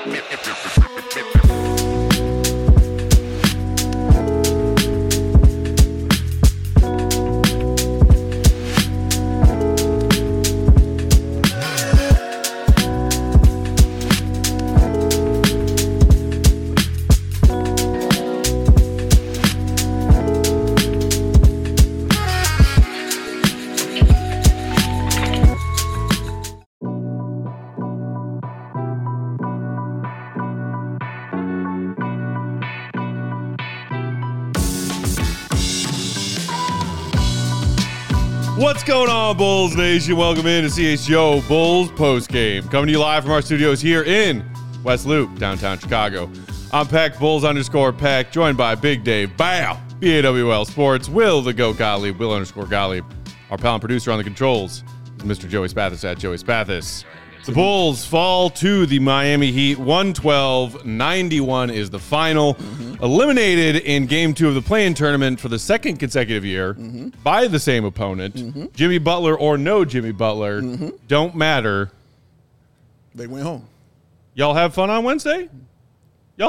What's going on, Bulls Nation? Welcome in to CHGO Bulls postgame. Coming to you live from our studios here in West Loop, downtown Chicago. I'm Peck, Bulls_Peck, joined by Big Dave, Bow, BAWL Sports, Will the Goat Gottlieb, Will_Gottlieb. Our pal and producer on the controls is Mr. Joey Spathis at Joey Spathis. The Bulls fall to the Miami Heat, 112-91 is the final. Eliminated in Game 2 of the play-in tournament for the second consecutive year by the same opponent. Jimmy Butler or no Jimmy Butler, don't matter. They went home. Y'all have fun on Wednesday? Are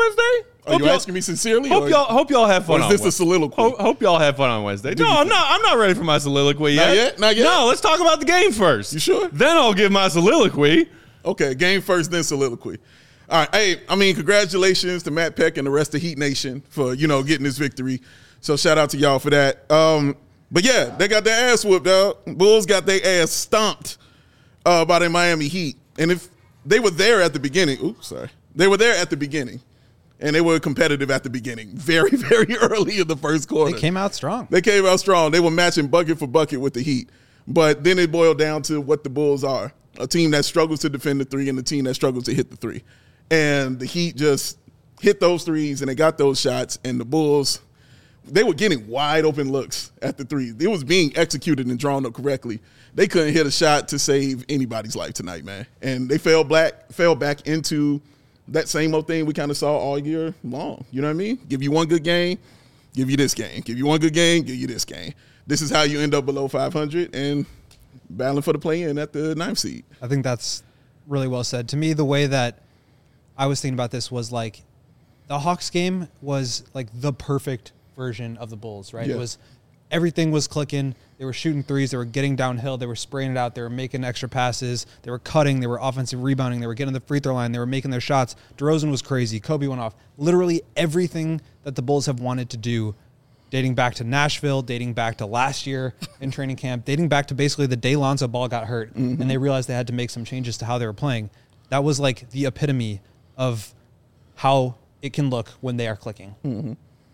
you asking me sincerely? Hope y'all have fun. Or is this a soliloquy? Hope y'all have fun on Wednesday. No, I'm not ready for my soliloquy yet. Not yet? No, let's talk about the game first. You sure? Then I'll give my soliloquy. Okay, game first, then soliloquy. All right. Hey, congratulations to Matt Peck and the rest of Heat Nation for, getting this victory. So shout out to y'all for that. But yeah, they got their ass whooped, dog. Bulls got their ass stomped by the Miami Heat. And if they were there at the beginning, they were there at the beginning. And they were competitive at the beginning, very, very early in the first quarter. They came out strong. They were matching bucket for bucket with the Heat. But then it boiled down to what the Bulls are, a team that struggles to defend the three and a team that struggles to hit the three. And the Heat just hit those threes, and they got those shots. And the Bulls, they were getting wide open looks at the three. It was being executed and drawn up correctly. They couldn't hit a shot to save anybody's life tonight, man. And they fell back into that same old thing we kind of saw all year long. You know what I mean? Give you one good game, give you this game. Give you one good game, give you this game. This is how you end up below 500 and battling for the play-in at the 9th seed. I think that's really well said. To me, the way that I was thinking about this was like the Hawks game was like the perfect version of the Bulls, right? Yeah. It was everything was clicking. They were shooting threes. They were getting downhill. They were spraying it out. They were making extra passes. They were cutting. They were offensive rebounding. They were getting to the free throw line. They were making their shots. DeRozan was crazy. Kobe went off. Literally everything that the Bulls have wanted to do, dating back to Nashville, dating back to last year in training camp, dating back to basically the day Lonzo Ball got hurt, and they realized they had to make some changes to how they were playing. That was like the epitome of how it can look when they are clicking.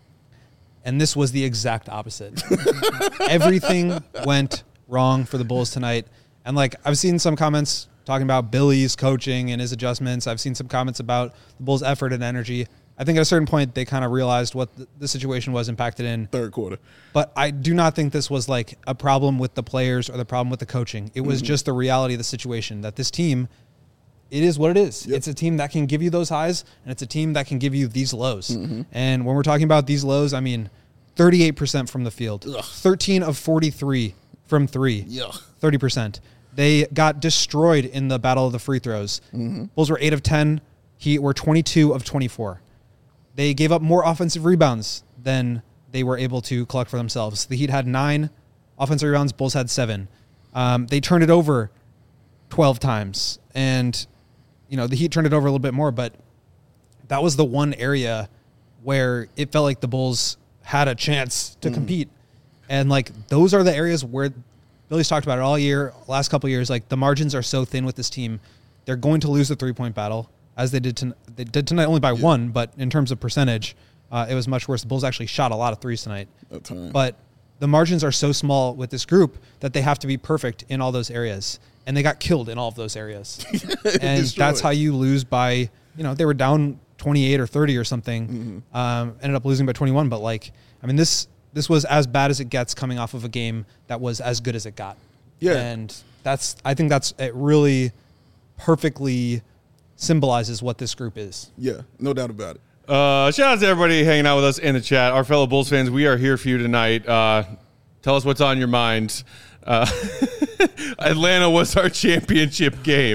And this was the exact opposite. Everything went wrong for the Bulls tonight. And like I've seen some comments talking about Billy's coaching and his adjustments. I've seen some comments about the Bulls' effort and energy. I think at a certain point they kind of realized what the situation was impacted in. Third quarter. But I do not think this was like a problem with the players or the problem with the coaching. It was just the reality of the situation that this team, it is what it is. Yep. It's a team that can give you those highs, and it's a team that can give you these lows. And when we're talking about these lows, I mean 38% from the field, 13 of 43 from three, 30%. They got destroyed in the battle of the free throws. Bulls were 8 of 10. Heat were 22 of 24. They gave up more offensive rebounds than they were able to collect for themselves. The Heat had 9 offensive rebounds. Bulls had 7. They turned it over 12 times. And, the Heat turned it over a little bit more, but that was the one area where it felt like the Bulls had a chance to compete. And, those are the areas where Billy's talked about it all year, last couple of years. The margins are so thin with this team. They're going to lose the three-point battle, as they did tonight only by 1, but in terms of percentage, it was much worse. The Bulls actually shot a lot of threes tonight. But the margins are so small with this group that they have to be perfect in all those areas. And they got killed in all of those areas. And that's how you lose by, they were down 28 or 30 or something, ended up losing by 21. But this was as bad as it gets coming off of a game that was as good as it got. Yeah. And I think it really perfectly symbolizes what this group is. Yeah, no doubt about it. Shout out to everybody hanging out with us in the chat. Our fellow Bulls fans, we are here for you tonight. Tell us what's on your mind. Atlanta was our championship game.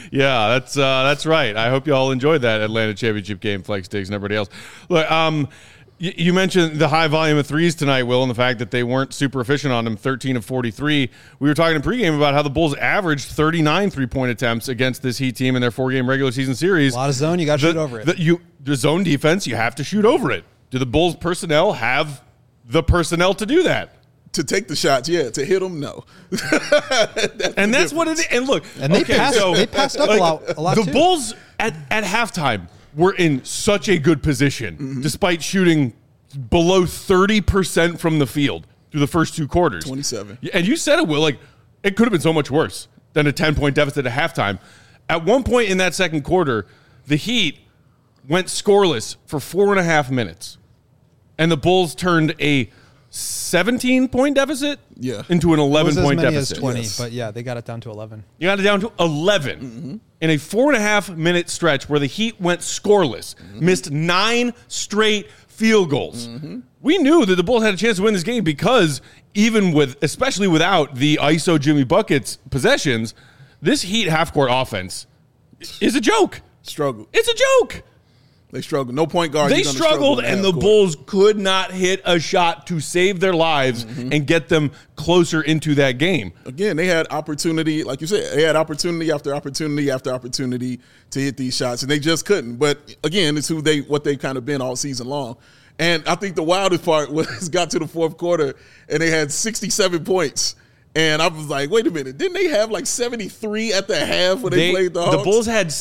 Yeah, that's right. I hope you all enjoyed that Atlanta championship game, Flex Diggs and everybody else. Look, you mentioned the high volume of threes tonight, Will, and the fact that they weren't super efficient on them, 13 of 43. We were talking in pregame about how the Bulls averaged 39 three-point attempts against this Heat team in their 4-game regular season series. A lot of zone, you got to shoot over it. The zone defense, you have to shoot over it. Do the Bulls personnel have the personnel to do that? To take the shots, yeah. To hit them, no. That's what it is. And look, and they passed up a lot the too. Bulls at halftime were in such a good position, despite shooting below 30% from the field through the first two quarters. 27. And you said it, Will. Like, it could have been so much worse than a 10-point deficit at halftime. At one point in that second quarter, the Heat went scoreless for 4.5 minutes. And the Bulls turned a 17-point deficit into an 11-point deficit. As 20, but yeah, they got it down to 11. You got it down to 11 in a 4.5 minute stretch where the Heat went scoreless, missed 9 straight field goals. We knew that the Bulls had a chance to win this game because especially without the ISO Jimmy Buckets possessions, this Heat half-court offense is a joke. Struggle. It's a joke. They struggled. No point guard. They struggled, and the Bulls could not hit a shot to save their lives and get them closer into that game. Again, they had opportunity, like you said, they had opportunity after opportunity after opportunity to hit these shots, and they just couldn't. But again, it's what they've kind of been all season long. And I think the wildest part was got to the fourth quarter, and they had 67 points. And I was like, wait a minute. Didn't they have like 73 at the half when they played the Hawks? The Bulls had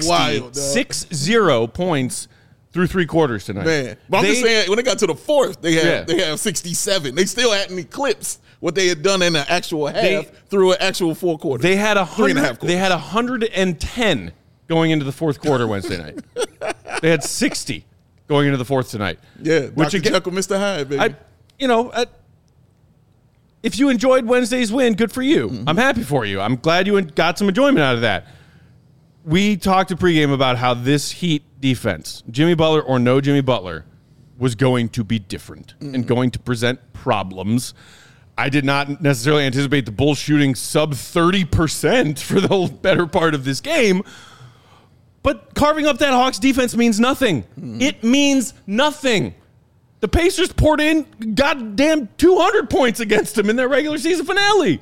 60 points through 3 quarters tonight. Man. But I'm just saying, when they got to the fourth, they have 67. They still hadn't eclipsed what they had done in the actual half through an actual 4 quarters. They had 110 going into the fourth quarter Wednesday night. They had 60 going into the fourth tonight. Yeah, Dr. Jekyll, Mr. Hyde, baby. If you enjoyed Wednesday's win, good for you. I'm happy for you. I'm glad you got some enjoyment out of that. We talked in pregame about how this Heat defense, Jimmy Butler or no Jimmy Butler, was going to be different and going to present problems. I did not necessarily anticipate the Bulls shooting sub 30% for the better part of this game. But carving up that Hawks defense means nothing. It means nothing. The Pacers poured in goddamn 200 points against them in their regular season finale.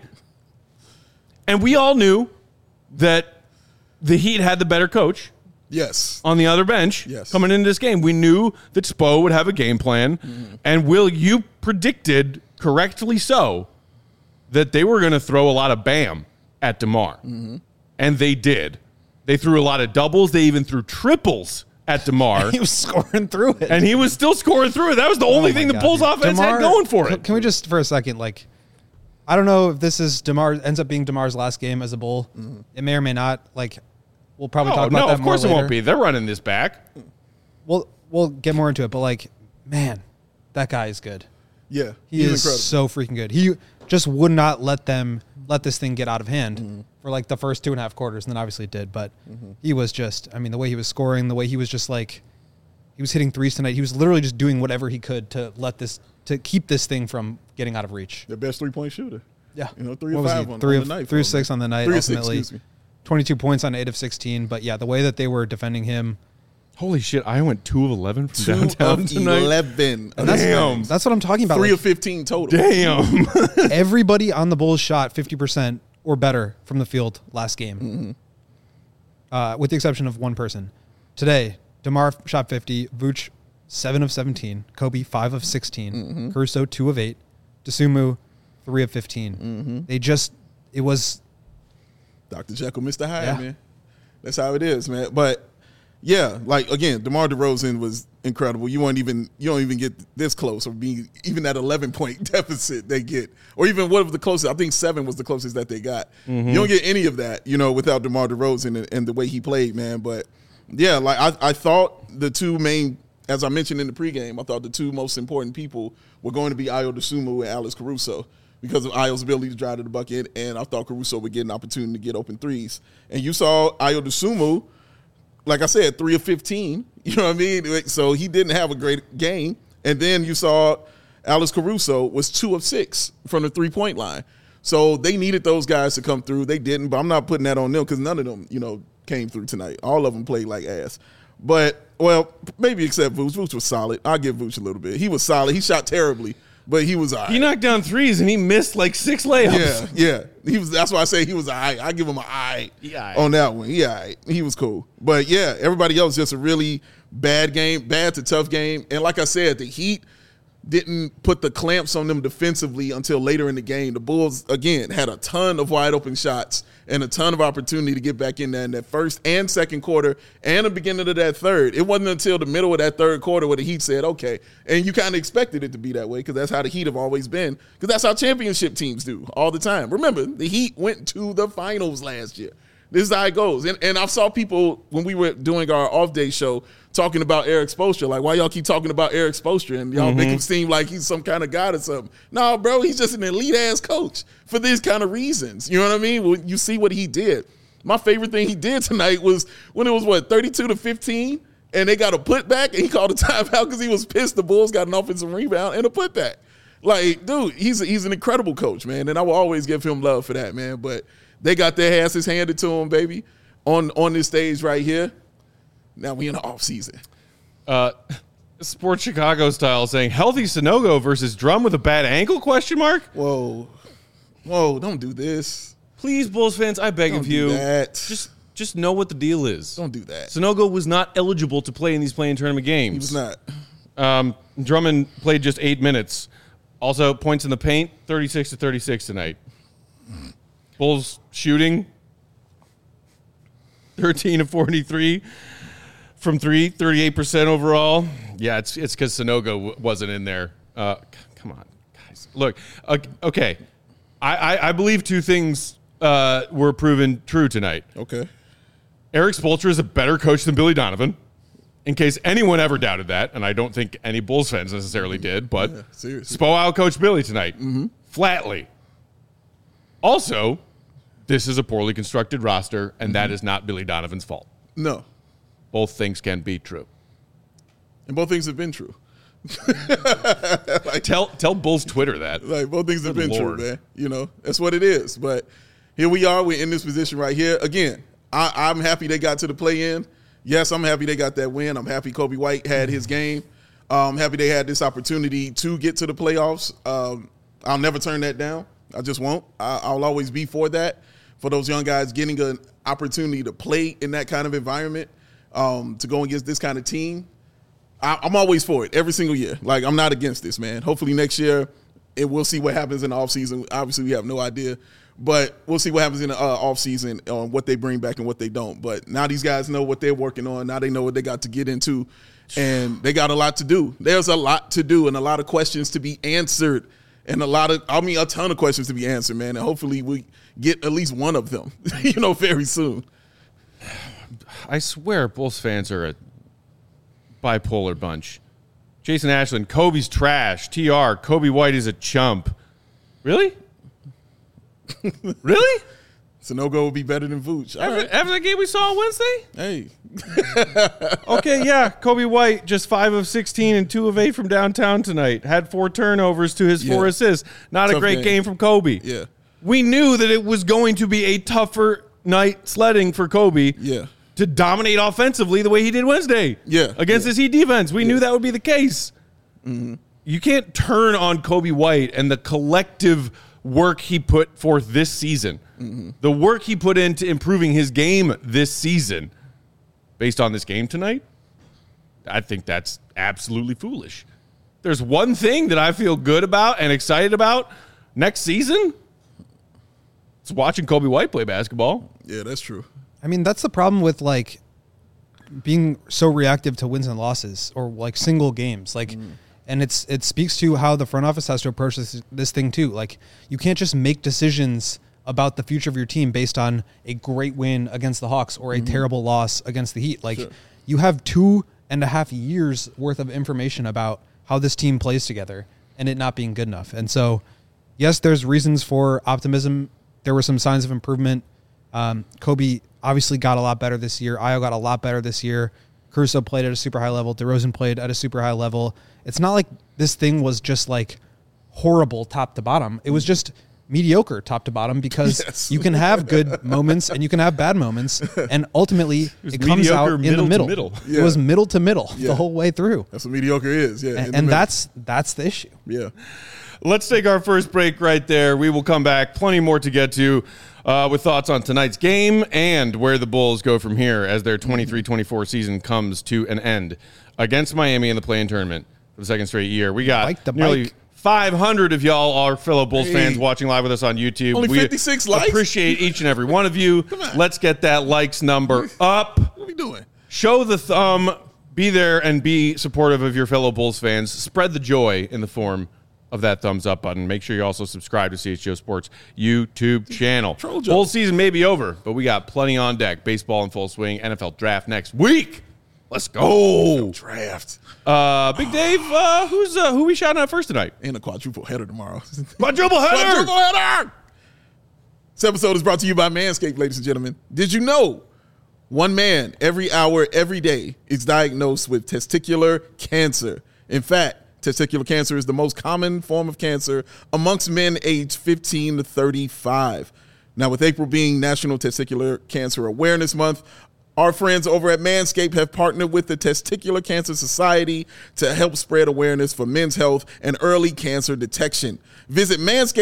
And we all knew that the Heat had the better coach. Yes. On the other bench. Yes. Coming into this game. We knew that Spo would have a game plan. And Will, you predicted, correctly so, that they were going to throw a lot of Bam at DeMar. And they did. They threw a lot of doubles. They even threw triples at DeMar. He was scoring through it. And he was still scoring through it. That was the only thing the Bulls offense had going for it. Can we just, for a second, I don't know if this is ends up being DeMar's last game as a Bull. It may or may not. We'll probably talk about that more later. No, of course it won't be. They're running this back. We'll get more into it, but man, that guy is good. Yeah. He is incredible. So freaking good. He just would not let this thing get out of hand for the first 2.5 quarters, and then obviously it did. But he was just, the way he was scoring, the way he was just he was hitting threes tonight. He was literally just doing whatever he could to keep this thing from getting out of reach. The best 3-point shooter. Yeah. 3 or 5 on the night. 3 of 6 on the night, 3 ultimately. 22 points on 8 of 16. But yeah, the way that they were defending him. Holy shit, I went 2 of 11 from downtown tonight. 11. Damn. That's what I'm talking about. 3 of 15 total. Damn. Everybody on the Bulls shot 50% or better from the field last game. With the exception of one person. Today, DeMar shot 50, Vooch 7 of 17, Kobe 5 of 16, Caruso 2 of 8, Dosunmu 3 of 15. It was Dr. Jekyll, Mr. Hyde, man. That's how it is, man. But yeah, again, DeMar DeRozan was incredible. You don't even get this close or be even that 11-point deficit they get, or even what was the closest? I think 7 was the closest that they got. You don't get any of that, without DeMar DeRozan and the way he played, man. But yeah, I thought the two main, as I mentioned in the pregame, I thought the two most important people were going to be Ayo Dosunmu and Alex Caruso, because of Ayo's ability to drive to the bucket, and I thought Caruso would get an opportunity to get open threes. And you saw Ayo Dosunmu, like I said, 3 of 15. You know what I mean? So he didn't have a great game. And then you saw Alex Caruso was 2 of 6 from the 3-point line. So they needed those guys to come through. They didn't, but I'm not putting that on them because none of them, came through tonight. All of them played like ass. But, well, maybe except Vooch. Vooch was solid. I'll give Vooch a little bit. He was solid. He shot terribly, but he was all right. He knocked down threes and he missed like 6 layups. Yeah. That's why I say he was all right. I give him an all right on that one. Yeah, all right. He was cool. But, yeah, everybody else just a really bad game, bad to tough game. And like I said, the Heat didn't put the clamps on them defensively until later in the game. The Bulls, again, had a ton of wide open shots and a ton of opportunity to get back in there in that first and second quarter and the beginning of that third. It wasn't until the middle of that third quarter where the Heat said, okay. And you kind of expected it to be that way because that's how the Heat have always been, because that's how championship teams do all the time. Remember, the Heat went to the finals last year. This is how it goes. And I saw people, when we were doing our off-day show, talking about Eric Spoelstra. Like, why y'all keep talking about Eric Spoelstra? And y'all make him seem like he's some kind of god or something. No, bro, he's just an elite-ass coach for these kind of reasons. You know what I mean? When you see what he did. My favorite thing he did tonight was when it was, 32-15? And they got a putback, and he called a timeout because he was pissed the Bulls got an offensive rebound and a putback. Like, dude, he's an incredible coach, man. And I will always give him love for that, man. But they got their asses handed to them, baby, on this stage right here. Now we in the offseason. Sports Chicago style saying, healthy Sanogo versus Drum with a bad ankle, question mark? Whoa, don't do this. Please, Bulls fans, I beg of you. That. Just know what the deal is. Don't do that. Sanogo was not eligible to play in these play-in tournament games. He was not. Drummond played just 8 minutes. Also, points in the paint, 36-36 tonight. Bulls shooting, 13-43 from 3, 38% overall. Yeah, it's because Sanogo wasn't in there. Come on, guys. Look, okay. I believe 2 things were proven true tonight. Okay. Eric Spoelstra is a better coach than Billy Donovan, in case anyone ever doubted that, and I don't think any Bulls fans necessarily did, but seriously. Spo out-coached Billy tonight, flatly. Also, this is a poorly constructed roster, and that is not Billy Donovan's fault. No. Both things can be true. And both things have been true. Tell Bulls Twitter that. Like, both things have Good been Lord. true, man. You know, that's what it is. But here we are. We're in this position right here. Again, I'm happy they got to the play-in. Yes, I'm happy they got that win. I'm happy Kobe White had his game. I'm happy they had this opportunity to get to the playoffs. I'll never turn that down. I just won't. I'll always be for that, for those young guys getting an opportunity to play in that kind of environment, to go against this kind of team. I'm always for it every single year. Like, I'm not against this, man. Hopefully next year, we'll see what happens in the offseason. Obviously, we have no idea. But we'll see what happens in the offseason on what they bring back and what they don't. But now these guys know what they're working on. Now they know what they got to get into. And they got a lot to do. There's a lot to do and a lot of questions to be answered. And a ton of questions to be answered, man. And hopefully we get at least one of them, very soon. I swear Bulls fans are a bipolar bunch. Jason Ashland, Kobe's trash. TR, Kobe White is a chump. Really? Really? Sanogo will be better than Vooch. After the game we saw on Wednesday? Hey. Okay, yeah. Kobe White, just 5 of 16 and 2 of 8 from downtown tonight. Had 4 turnovers to his 4 assists. Not Tough a great game from Kobe. Yeah. We knew that it was going to be a tougher night sledding for Kobe. Yeah. To dominate offensively the way he did Wednesday. Yeah. Against this Heat defense. We knew that would be the case. Mm-hmm. You can't turn on Kobe White and the collective work he put forth this season. Mm-hmm. The work he put into improving his game this season based on this game tonight. I think that's absolutely foolish. There's one thing that I feel good about and excited about next season. It's watching Kobe White play basketball. Yeah, that's true. I mean, that's the problem with like being so reactive to wins and losses or like single games. Like, and it speaks to how the front office has to approach this thing too. Like, you can't just make decisions about the future of your team based on a great win against the Hawks or a terrible loss against the Heat. Like, you have 2.5 years worth of information about how this team plays together and it not being good enough. And so, yes, there's reasons for optimism. There were some signs of improvement. Kobe obviously got a lot better this year. Ayo got a lot better this year. Caruso played at a super high level. DeRozan played at a super high level. It's not like this thing was just like horrible top to bottom. It was just mediocre top to bottom because Yes. you can have good moments and you can have bad moments, and ultimately it comes out mediocre in the middle middle. to middle. Yeah. It was middle to middle Yeah. the whole way through, That's what mediocre is. Yeah. in the and middle. that's the issue. Yeah. Let's take our first break right there. We will come back. Plenty more to get to with thoughts on tonight's game and where the Bulls go from here as their 23-24 season comes to an end against Miami in the play-in tournament for the second straight year. We got Bike the nearly bike. 500 of y'all, our fellow Bulls Hey. fans, watching live with us on YouTube. Only We 56 likes? appreciate each and every one of you. on. Let's get that likes number up. What are we doing? Show the thumb. Be there and be supportive of your fellow Bulls fans. Spread the joy in the form of that thumbs up button. Make sure you also subscribe to CHGO Sports YouTube channel. Troll joke. Bowl season may be over, but we got plenty on deck. Baseball in full swing. NFL draft next week. Let's go. Draft. Big Dave, who we shouting out first tonight? And a quadruple header tomorrow. Quadruple header. Quadruple header. This episode is brought to you by Manscaped, ladies and gentlemen. Did you know one man every hour, every day is diagnosed with testicular cancer? In fact, testicular cancer is the most common form of cancer amongst men aged 15 to 35. Now, with April being National Testicular Cancer Awareness Month, our friends over at Manscaped have partnered with the Testicular Cancer Society to help spread awareness for men's health and early cancer detection. Visit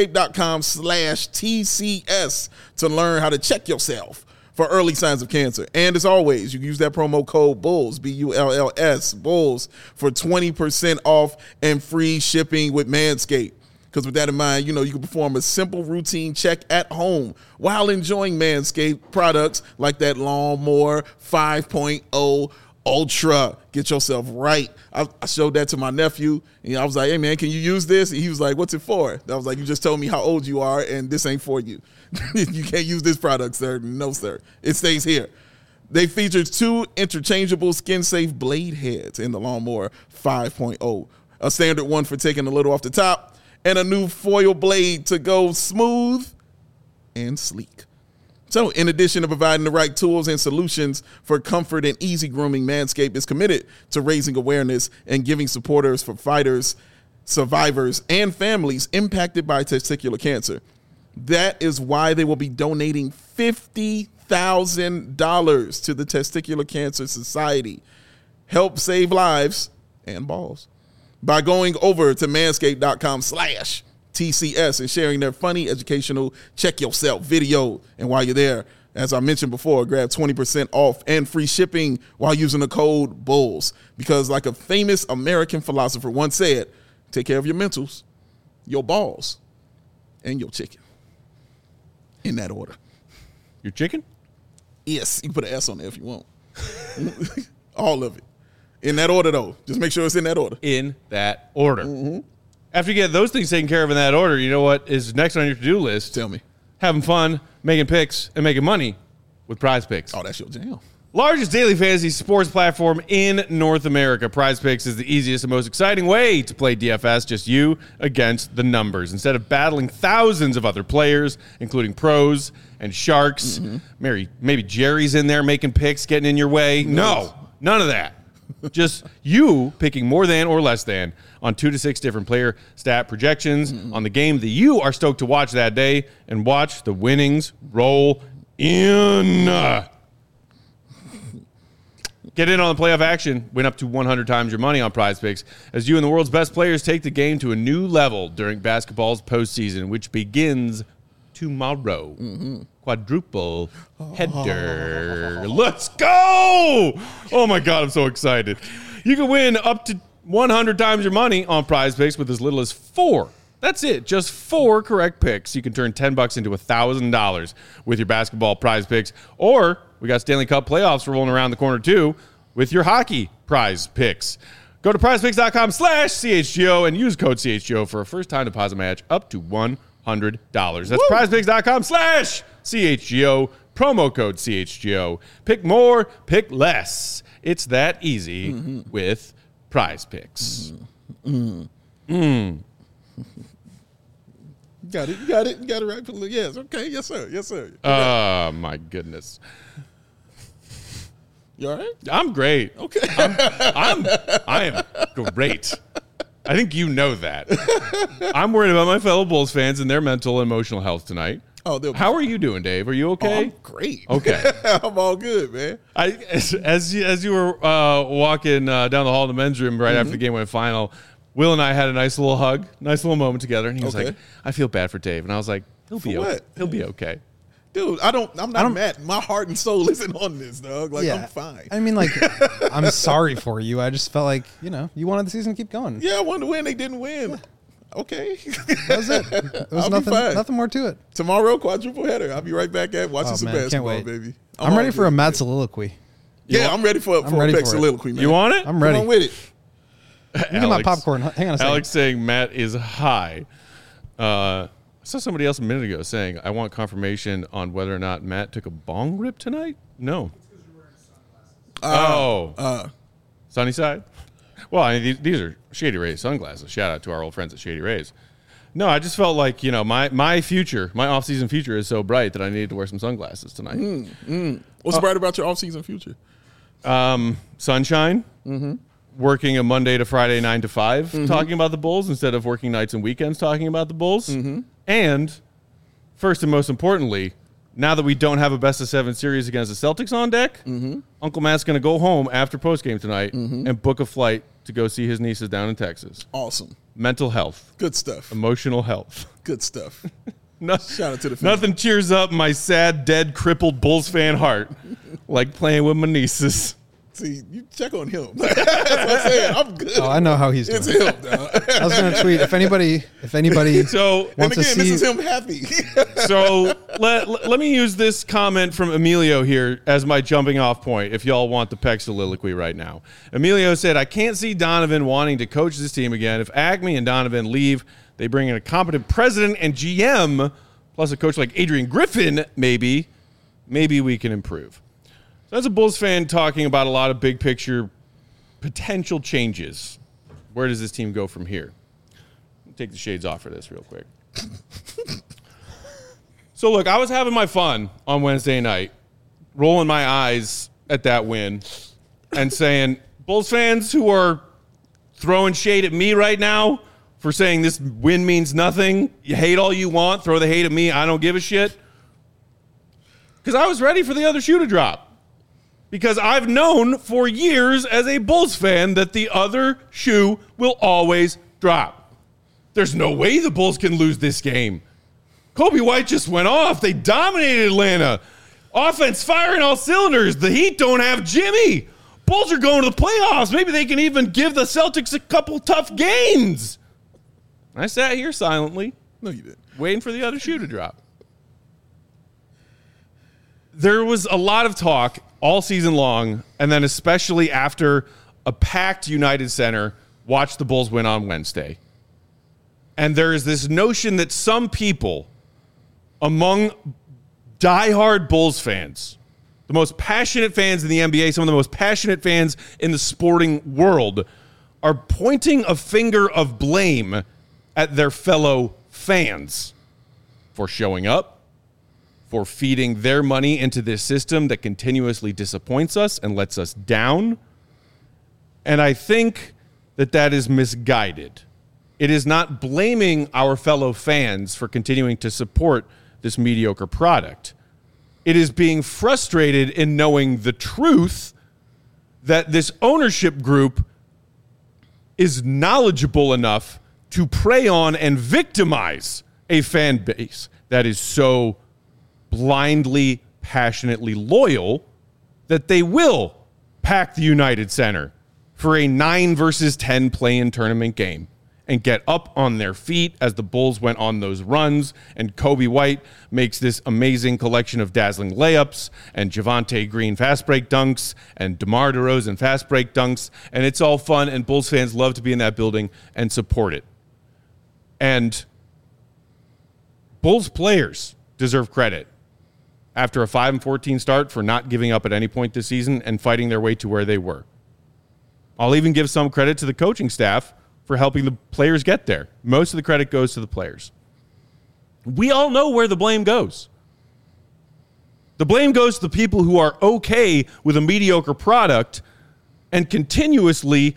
manscaped.com/TCS to learn how to check yourself for early signs of cancer. And as always, you can use that promo code BULLS, BULLS, BULLS, for 20% off and free shipping with Manscaped. Because with that in mind, you can perform a simple routine check at home while enjoying Manscaped products like that Lawnmower 5.0 Ultra. Get yourself right. I showed that to my nephew, and I was like, hey, man, can you use this? And he was like, what's it for? I was like, you just told me how old you are, and this ain't for you. You can't use this product, sir. No, sir. It stays here. They featured 2 interchangeable skin-safe blade heads in the Lawnmower 5.0, a standard one for taking a little off the top, and a new foil blade to go smooth and sleek. So, in addition to providing the right tools and solutions for comfort and easy grooming, Manscaped is committed to raising awareness and giving supporters for fighters, survivors, and families impacted by testicular cancer. That is why they will be donating $50,000 to the Testicular Cancer Society. Help save lives and balls by going over to manscaped.com/TCS and sharing their funny, educational, check yourself video. And while you're there, as I mentioned before, grab 20% off and free shipping while using the code BULLS. Because like a famous American philosopher once said, take care of your mentals, your balls, and your chicken. In that order. Your chicken? Yes, you can put an S on there if you want. All of it. In that order, though. Just make sure it's in that order. In that order. After you get those things taken care of in that order, you know what is next on your to-do list? Tell me. Having fun, making picks, and making money with Prize Picks. Oh, that's your jam. Largest daily fantasy sports platform in North America. Prize Picks is the easiest and most exciting way to play DFS, just you against the numbers. Instead of battling thousands of other players, including pros and sharks, maybe Jerry's in there making picks, getting in your way. No, none of that. Just you picking more than or less than on 2 to 6 different player stat projections on the game that you are stoked to watch that day, and watch the winnings roll in. Get in on the playoff action. Win up to 100 times your money on Prize Picks as you and the world's best players take the game to a new level during basketball's postseason, which begins tomorrow. Quadruple header. Let's go! Oh, my God, I'm so excited. You can win up to 100 times your money on Prize Picks with as little as 4. That's it. Just 4 correct picks. You can turn $10 into $1,000 with your basketball Prize Picks. Or we got Stanley Cup playoffs rolling around the corner, too, with your hockey Prize Picks. Go to prizepicks.com/CHGO and use code CHGO for a first-time deposit match up to $100. That's prizepicks.com/CHGO, promo code CHGO. Pick more, pick less. It's that easy with Prize Picks. Got it. You got it right. Yes. Okay. Yes, sir. Yes, sir. Oh, my goodness. You all right? I'm great. Okay. I am great. I think you know that. I'm worried about my fellow Bulls fans and their mental and emotional health tonight. Oh, how are you doing, Dave? Are you okay? I'm great. Okay. I'm all good, man. As you were walking down the hall in the men's room right after the game went final, Will and I had a nice little hug, nice little moment together, and he was like, "I feel bad for Dave," and I was like, "He'll be okay. He'll be okay." Dude, I'm not mad. My heart and soul isn't on this, dog. Like, I'm fine. I mean, like, I'm sorry for you. I just felt like, you wanted the season to keep going. Yeah, I wanted to win. They didn't win. Okay. That was it. There was nothing more to it. Tomorrow, quadruple header. I'll be right back at watching some basketball, can't wait. baby. I'm ready for a mad soliloquy. I'm ready for a Peck soliloquy, man. You want it? I'm ready. Come on with it. Get my popcorn. Hang on a second. Alex saying Matt is high. I saw somebody else a minute ago saying, I want confirmation on whether or not Matt took a bong rip tonight. No. Sunny side? Well, I mean, these are Shady Rays sunglasses. Shout out to our old friends at Shady Rays. No, I just felt like, my future, my off-season future is so bright that I needed to wear some sunglasses tonight. What's bright about your off-season future? Sunshine. Working a Monday to Friday 9 to 5 talking about the Bulls instead of working nights and weekends talking about the Bulls. And first and most importantly, now that we don't have a best-of-7 series against the Celtics on deck, Uncle Matt's going to go home after postgame tonight and book a flight to go see his nieces down in Texas. Awesome. Mental health. Good stuff. Emotional health. Good stuff. Shout out to the family. Nothing cheers up my sad, dead, crippled Bulls fan heart like playing with my nieces. See, you check on him. That's what I'm saying. I'm good. Oh, I know how he's doing. It's him, dog. I was going to tweet if anybody so, wants to see. This is him happy. So let me use this comment from Emilio here as my jumping off point if y'all want the Peck soliloquy right now. Emilio said, I can't see Donovan wanting to coach this team again. If Acme and Donovan leave, they bring in a competent president and GM, plus a coach like Adrian Griffin, maybe we can improve. As a Bulls fan talking about a lot of big picture potential changes, where does this team go from here? Take the shades off for this real quick. So, look, I was having my fun on Wednesday night, rolling my eyes at that win and saying, Bulls fans who are throwing shade at me right now for saying this win means nothing, you hate all you want, throw the hate at me, I don't give a shit. Because I was ready for the other shoe to drop. Because I've known for years as a Bulls fan that the other shoe will always drop. There's no way the Bulls can lose this game. Kobe White just went off. They dominated Atlanta. Offense firing all cylinders. The Heat don't have Jimmy. Bulls are going to the playoffs. Maybe they can even give the Celtics a couple tough games. I sat here silently. No, you didn't. Waiting for the other shoe to drop. There was a lot of talk all season long, and then especially after a packed United Center watched the Bulls win on Wednesday. And there is this notion that some people among diehard Bulls fans, the most passionate fans in the NBA, some of the most passionate fans in the sporting world, are pointing a finger of blame at their fellow fans for showing up, for feeding their money into this system that continuously disappoints us and lets us down. And I think that is misguided. It is not blaming our fellow fans for continuing to support this mediocre product. It is being frustrated in knowing the truth that this ownership group is knowledgeable enough to prey on and victimize a fan base that is so blindly, passionately loyal that they will pack the United Center for a 9 versus 10 play-in tournament game and get up on their feet as the Bulls went on those runs, and Kobe White makes this amazing collection of dazzling layups and Javonte Green fast break dunks and DeMar DeRozan fast break dunks, and it's all fun, and Bulls fans love to be in that building and support it. And Bulls players deserve credit after a 5-14 start for not giving up at any point this season and fighting their way to where they were. I'll even give some credit to the coaching staff for helping the players get there. Most of the credit goes to the players. We all know where the blame goes. The blame goes to the people who are okay with a mediocre product and continuously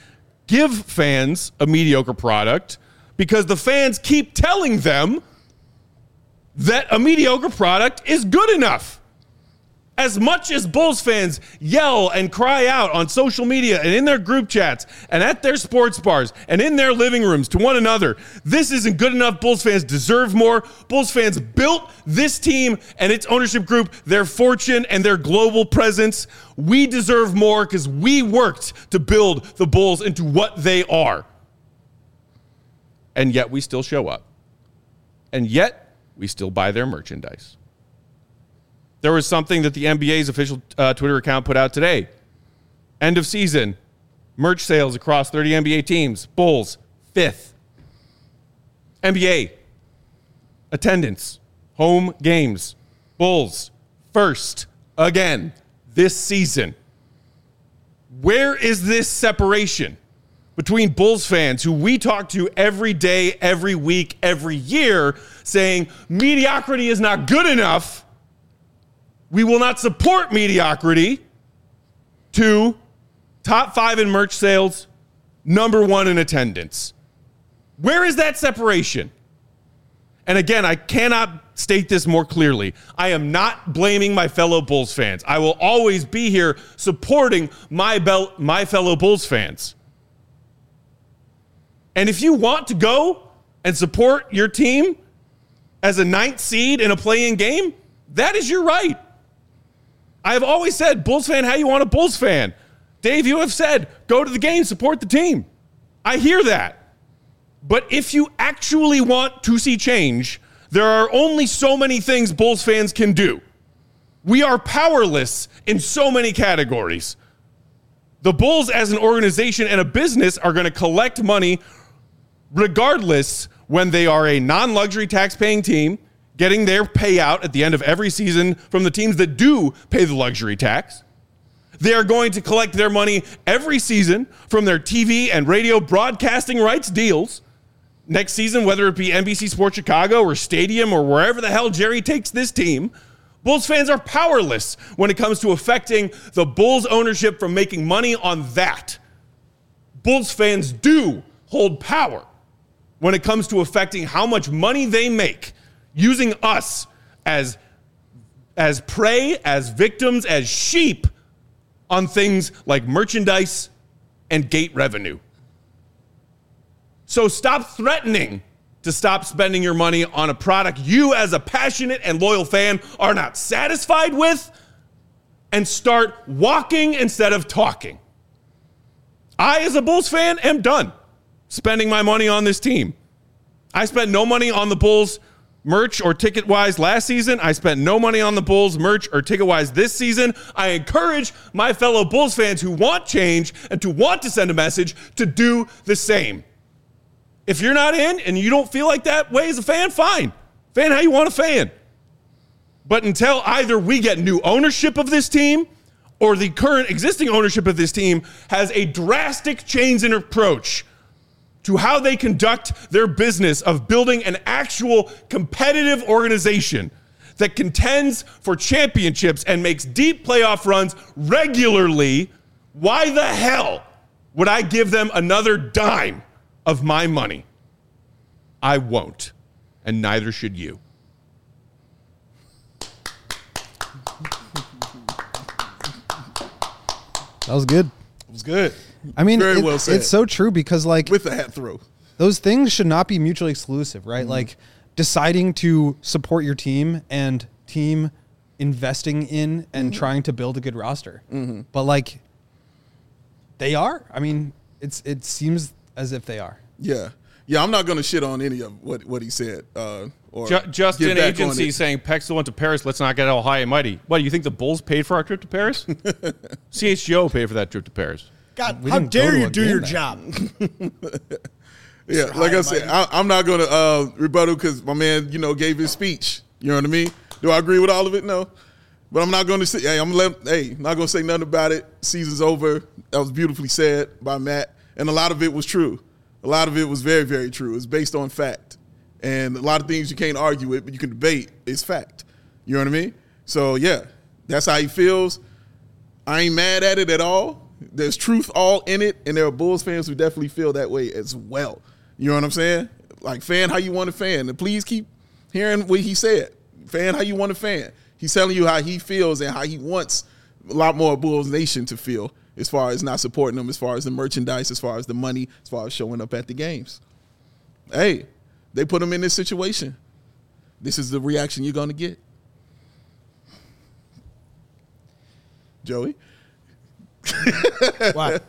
give fans a mediocre product because the fans keep telling them that a mediocre product is good enough. As much as Bulls fans yell and cry out on social media and in their group chats and at their sports bars and in their living rooms to one another, this isn't good enough. Bulls fans deserve more. Bulls fans built this team and its ownership group, their fortune and their global presence. We deserve more because we worked to build the Bulls into what they are. And yet we still show up. And yet we still buy their merchandise. There was something that the NBA's official Twitter account put out today. End of season, merch sales across 30 NBA teams. Bulls, 5th. NBA, attendance, home games. Bulls, 1st again this season. Where is this separation between Bulls fans who we talk to every day, every week, every year, saying mediocrity is not good enough? We will not support mediocrity, to top 5 in merch sales, number 1 in attendance. Where is that separation? And again, I cannot state this more clearly. I am not blaming my fellow Bulls fans. I will always be here supporting my fellow Bulls fans. And if you want to go and support your team as a 9th seed in a play-in game, that is your right. I have always said, Bulls fan, how you want a Bulls fan? Dave, you have said, go to the game, support the team. I hear that. But if you actually want to see change, there are only so many things Bulls fans can do. We are powerless in so many categories. The Bulls as an organization and a business are going to collect money regardless when they are a non-luxury tax-paying team, getting their payout at the end of every season from the teams that do pay the luxury tax. They are going to collect their money every season from their TV and radio broadcasting rights deals. Next season, whether it be NBC Sports Chicago or Stadium or wherever the hell Jerry takes this team, Bulls fans are powerless when it comes to affecting the Bulls ownership from making money on that. Bulls fans do hold power when it comes to affecting how much money they make, using us as prey, as victims, as sheep on things like merchandise and gate revenue. So stop threatening to stop spending your money on a product you as a passionate and loyal fan are not satisfied with, and start walking instead of talking. I, as a Bulls fan, am done spending my money on this team. I spent no money on the Bulls merch or ticket-wise last season. I spent no money on the Bulls merch or ticket-wise this season. I encourage my fellow Bulls fans who want change and to want to send a message to do the same. If you're not in and you don't feel like that way as a fan, fine. Fan how you want to fan. But until either we get new ownership of this team or the current existing ownership of this team has a drastic change in approach to how they conduct their business of building an actual competitive organization that contends for championships and makes deep playoff runs regularly, why the hell would I give them another dime of my money? I won't, and neither should you. That was good. It was good. I mean, Very well said. It's so true because, like, With the hat throw. those things should not be mutually exclusive, right? Like, deciding to support your team and team investing in and trying to build a good roster. But, like, they are. I mean, it seems as if they are. Yeah. Yeah, I'm not going to shit on any of what he said. Or Just get in back on agency it. saying Peck still went to Paris. Let's not get all high and mighty. What, do you think the Bulls paid for our trip to Paris? CHGO paid for that trip to Paris. God, We how didn't go dare to you a do game your there. job? Yeah, like I said, I'm not going to rebuttal because my man, gave his speech. You know what I mean? Do I agree with all of it? No. But I'm not going to say, not going to say nothing about it. Season's over. That was beautifully said by Matt. And a lot of it was true. A lot of it was very, very true. It's based on fact. And a lot of things you can't argue with, but you can debate. It's fact. You know what I mean? So, yeah, that's how he feels. I ain't mad at it at all. there's truth all in it, and there are Bulls fans who definitely feel that way as well. You know what I'm saying? Like, fan how you want to fan. And please keep hearing what he said. Fan how you want to fan. He's telling you how he feels and how he wants a lot more Bulls Nation to feel as far as not supporting them, as far as the merchandise, as far as the money, as far as showing up at the games. Hey, they put him in this situation. This is the reaction you're going to get. Joey? What?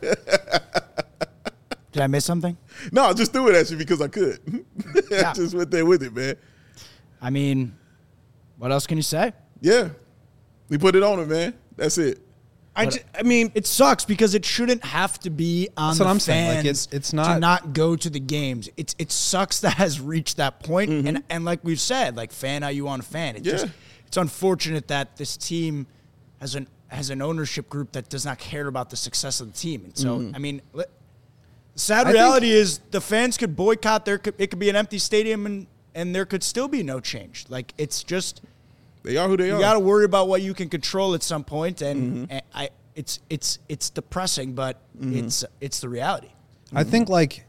Did I miss something? No, I just threw it at you because I could. Yeah. I just went there with it, man. I mean, what else can you say? Yeah. We put it on him, man. That's it. I mean, It sucks because it shouldn't have to be on That's the what I'm fans saying. Like, it's not- to not go to the games. It sucks that has reached that point. And like we've said, like, fan how you want to fan. It's unfortunate that this team has an ownership group that does not care about the success of the team. And so, I mean, the sad reality is the fans could boycott. It could be an empty stadium and there could still be no change. Like, it's just, They are who they are. you got to worry about what you can control at some point, and it's depressing, but it's the reality. I think, like,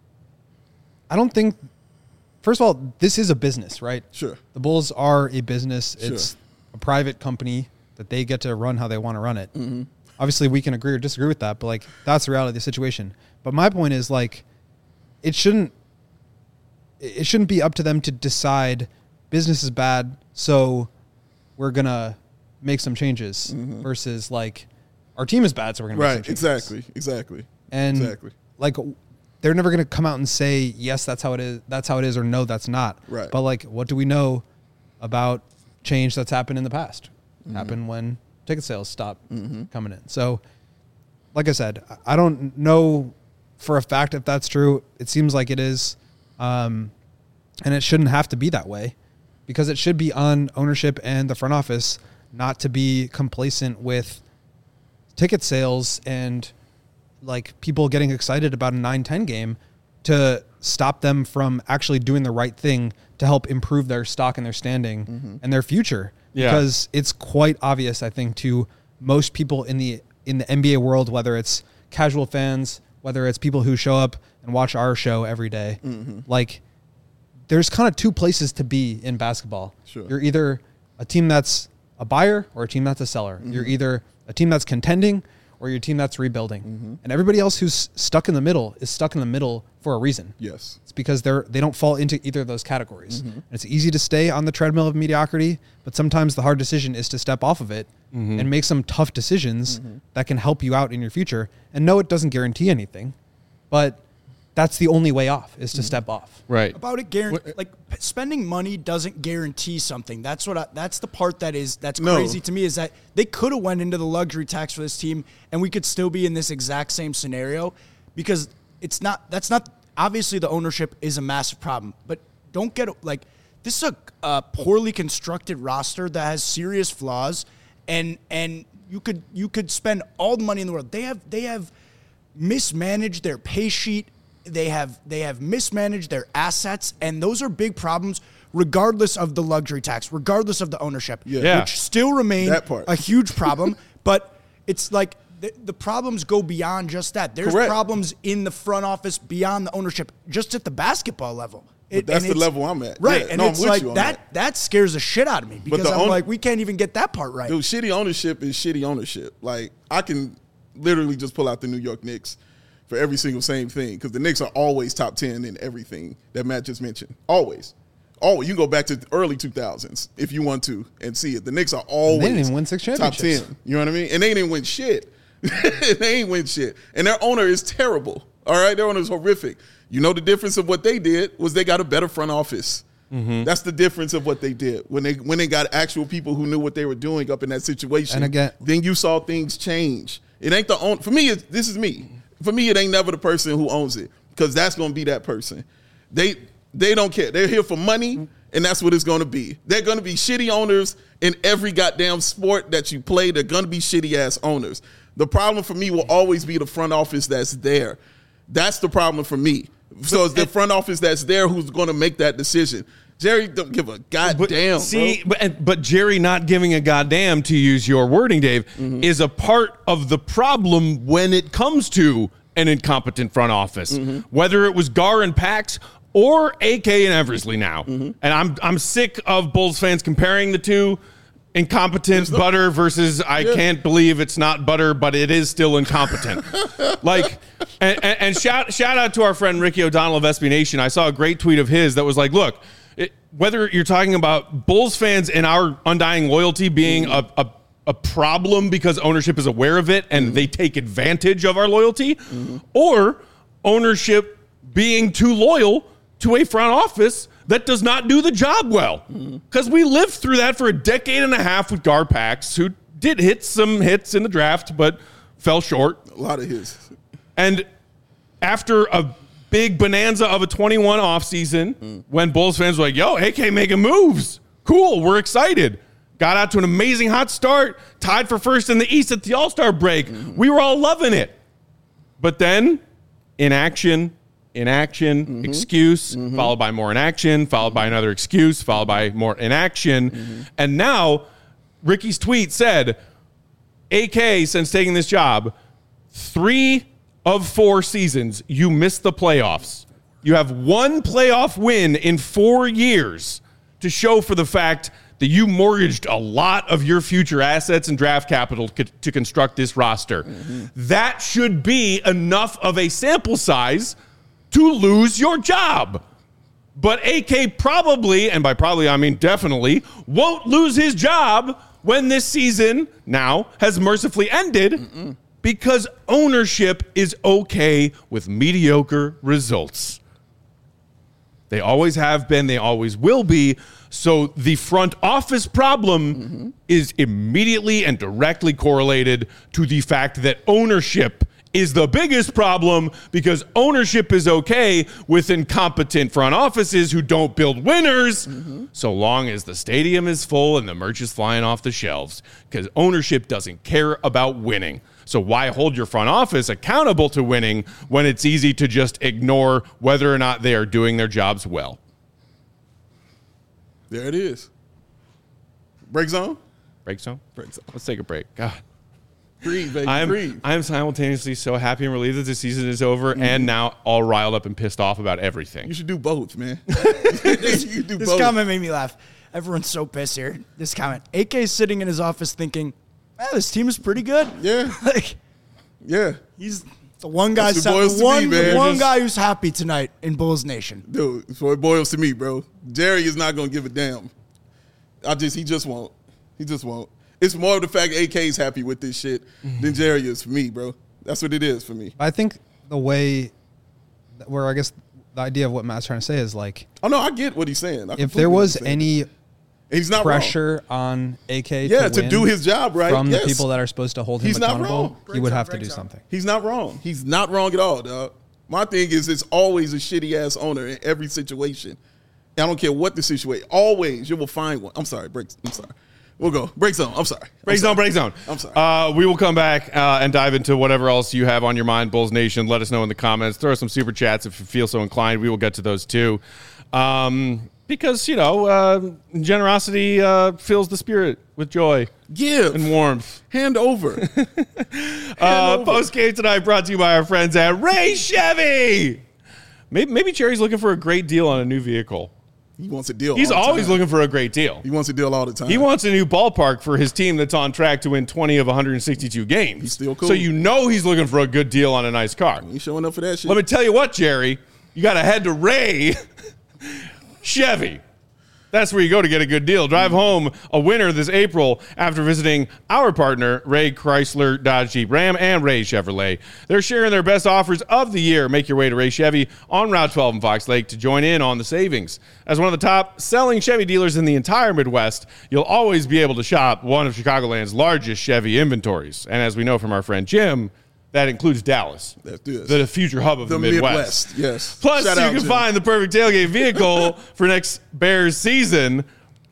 I don't think, first of all, this is a business, right? Sure. The Bulls are a business. Sure. It's a private company that they get to run how they want to run it. Obviously, we can agree or disagree with that, but, like, that's the reality of the situation. But my point is, like, it shouldn't be up to them to decide business is bad, so we're going to make some changes versus, like, our team is bad, so we're going to make some changes. Exactly. And like, they're never going to come out and say, yes, that's how it is, or no, that's not. Right. But, like, what do we know about change that's happened in the past? Happened when ticket sales stopped coming in. So, like I said, I don't know for a fact if that's true. It seems like it is. And it shouldn't have to be that way, because it should be on ownership and the front office not to be complacent with ticket sales and, like, people getting excited about a 9-10 game to stop them from actually doing the right thing to help improve their stock and their standing and their future. Yeah. Because it's quite obvious, I think, to most people in the NBA world, whether it's casual fans, whether it's people who show up and watch our show every day, like, there's kind of two places to be in basketball. Sure. You're either a team that's a buyer or a team that's a seller. You're either a team that's contending or you're a team that's rebuilding. And everybody else who's stuck in the middle is stuck in the middle for a reason. Yes. It's because they don't fall into either of those categories. And it's easy to stay on the treadmill of mediocrity, but sometimes the hard decision is to step off of it and make some tough decisions that can help you out in your future. And no, it doesn't guarantee anything, but that's the only way off, is to step off. Right. About it, like, spending money doesn't guarantee something. That's the part that's crazy to me, is that they could have went into the luxury tax for this team and we could still be in this exact same scenario, because that's not obviously the ownership is a massive problem, but don't get, like, this is a poorly constructed roster that has serious flaws, and you could spend all the money in the world. They have mismanaged their pay sheet. They have mismanaged their assets, and those are big problems regardless of the luxury tax, regardless of the ownership, which still remain a huge problem. But it's like the problems go beyond just that. There's problems in the front office beyond the ownership, just at the basketball level. That's the level I'm at. Right, Yeah, and no, it's I'm with like you on that scares the shit out of me, because I'm like, we can't even get that part right. Dude, shitty ownership is shitty ownership. Like, I can literally just pull out the New York Knicks for every single same thing, because the Knicks are always top 10 in everything that Matt just mentioned. Always. You can go back to the early 2000s if you want to and see it. The Knicks are always They didn't even win 6 top championships. 10. You know what I mean? And they didn't win shit. They ain't win shit. And their owner is terrible. All right? Their owner is horrific. You know, the difference of what they did was they got a better front office. That's the difference of what they did. When they got actual people who knew what they were doing up in that situation, And again, then you saw things change. It ain't the own. For me, this is me. For me, it ain't never the person who owns it, because that's going to be that person. They don't care. They're here for money, and that's what it's going to be. They're going to be shitty owners in every goddamn sport that you play. They're going to be shitty-ass owners. The problem for me will always be the front office that's there. That's the problem for me. So it's the front office that's there who's going to make that decision. Jerry don't give a goddamn. But Jerry not giving a goddamn, to use your wording, Dave, is a part of the problem when it comes to an incompetent front office. Whether it was Gar and Pax or AK and Eversley now. And I'm sick of Bulls fans comparing the two. Incompetent butter versus I can't believe it's not butter, but it is still incompetent. And shout out to our friend Ricky O'Donnell of SB Nation. I saw a great tweet of his that was like, look, whether you're talking about Bulls fans and our undying loyalty being a problem because ownership is aware of it and they take advantage of our loyalty, or ownership being too loyal to a front office that does not do the job well. Because we lived through that for a decade and a half with Gar Pax, who did hit some hits in the draft, but fell short. A lot of his. And after a big bonanza of a 21 offseason, when Bulls fans were like, yo, AK making moves. Cool, we're excited. Got out to an amazing hot start, tied for first in the East at the All-Star break. We were all loving it. But then, inaction, excuse, followed by more inaction, followed by another excuse, followed by more inaction. And now, Ricky's tweet said, AK, since taking this job, 3 of 4 seasons, you missed the playoffs. You have 1 playoff win in 4 years to show for the fact that you mortgaged a lot of your future assets and draft capital to construct this roster. That should be enough of a sample size to lose your job. But AK probably, and by probably I mean definitely, won't lose his job when this season now has mercifully ended because ownership is okay with mediocre results. They always have been, they always will be. So the front office problem is immediately and directly correlated to the fact that ownership is the biggest problem, because ownership is okay with incompetent front offices who don't build winners so long as the stadium is full and the merch is flying off the shelves, because ownership doesn't care about winning. So why hold your front office accountable to winning when it's easy to just ignore whether or not they are doing their jobs well? There it is. Break zone? Break zone? Break zone. Let's take a break. God. Breathe, baby, breathe. I am simultaneously so happy and relieved that the season is over and now all riled up and pissed off about everything. You should do both, man. This comment made me laugh. Everyone's so pissed here. This comment. AK is sitting in his office thinking, this team is pretty good. Yeah. Yeah. He's the one guy, guy who's happy tonight in Bulls Nation. Dude, that's what it boils to me, bro. Jerry is not going to give a damn. He just won't. He just won't. It's more of the fact AK's happy with this shit than Jerry is for me, bro. That's what it is for me. I think the way where I guess the idea of what Matt's trying to say is like, oh no, I get what he's saying. If there was any he's not pressure on AK to do his job right from the people that are supposed to hold him accountable, he would have to do something. He's not wrong. He's not wrong at all, dog. My thing is, it's always a shitty ass owner in every situation. I don't care what the situation. Always, you will find one. I'm sorry, We'll go. Break zone. I'm sorry. Break zone. I'm sorry. We will come back and dive into whatever else you have on your mind, Bulls Nation. Let us know in the comments. Throw some super chats if you feel so inclined. We will get to those too. Because, generosity fills the spirit with joy. Give. And warmth. Hand over. Post game tonight brought to you by our friends at Ray Chevy. Maybe Jerry's looking for a great deal on a new vehicle. He wants a deal. He's always looking for a great deal. He wants a deal all the time. He wants a new ballpark for his team that's on track to win 20 of 162 games. He's still cool. So he's looking for a good deal on a nice car. He's showing up for that shit. Let me tell you what, Jerry. You got to head to Ray Chevy. That's where you go to get a good deal. Drive home a winner this April after visiting our partner, Ray Chrysler, Dodge, Jeep, Ram, and Ray Chevrolet. They're sharing their best offers of the year. Make your way to Ray Chevy on Route 12 in Fox Lake to join in on the savings. As one of the top selling Chevy dealers in the entire Midwest, you'll always be able to shop one of Chicagoland's largest Chevy inventories. And as we know from our friend Jim, that includes Dallas, the future hub of the Midwest. Yes. Plus, you can find the perfect tailgate vehicle for next Bears season.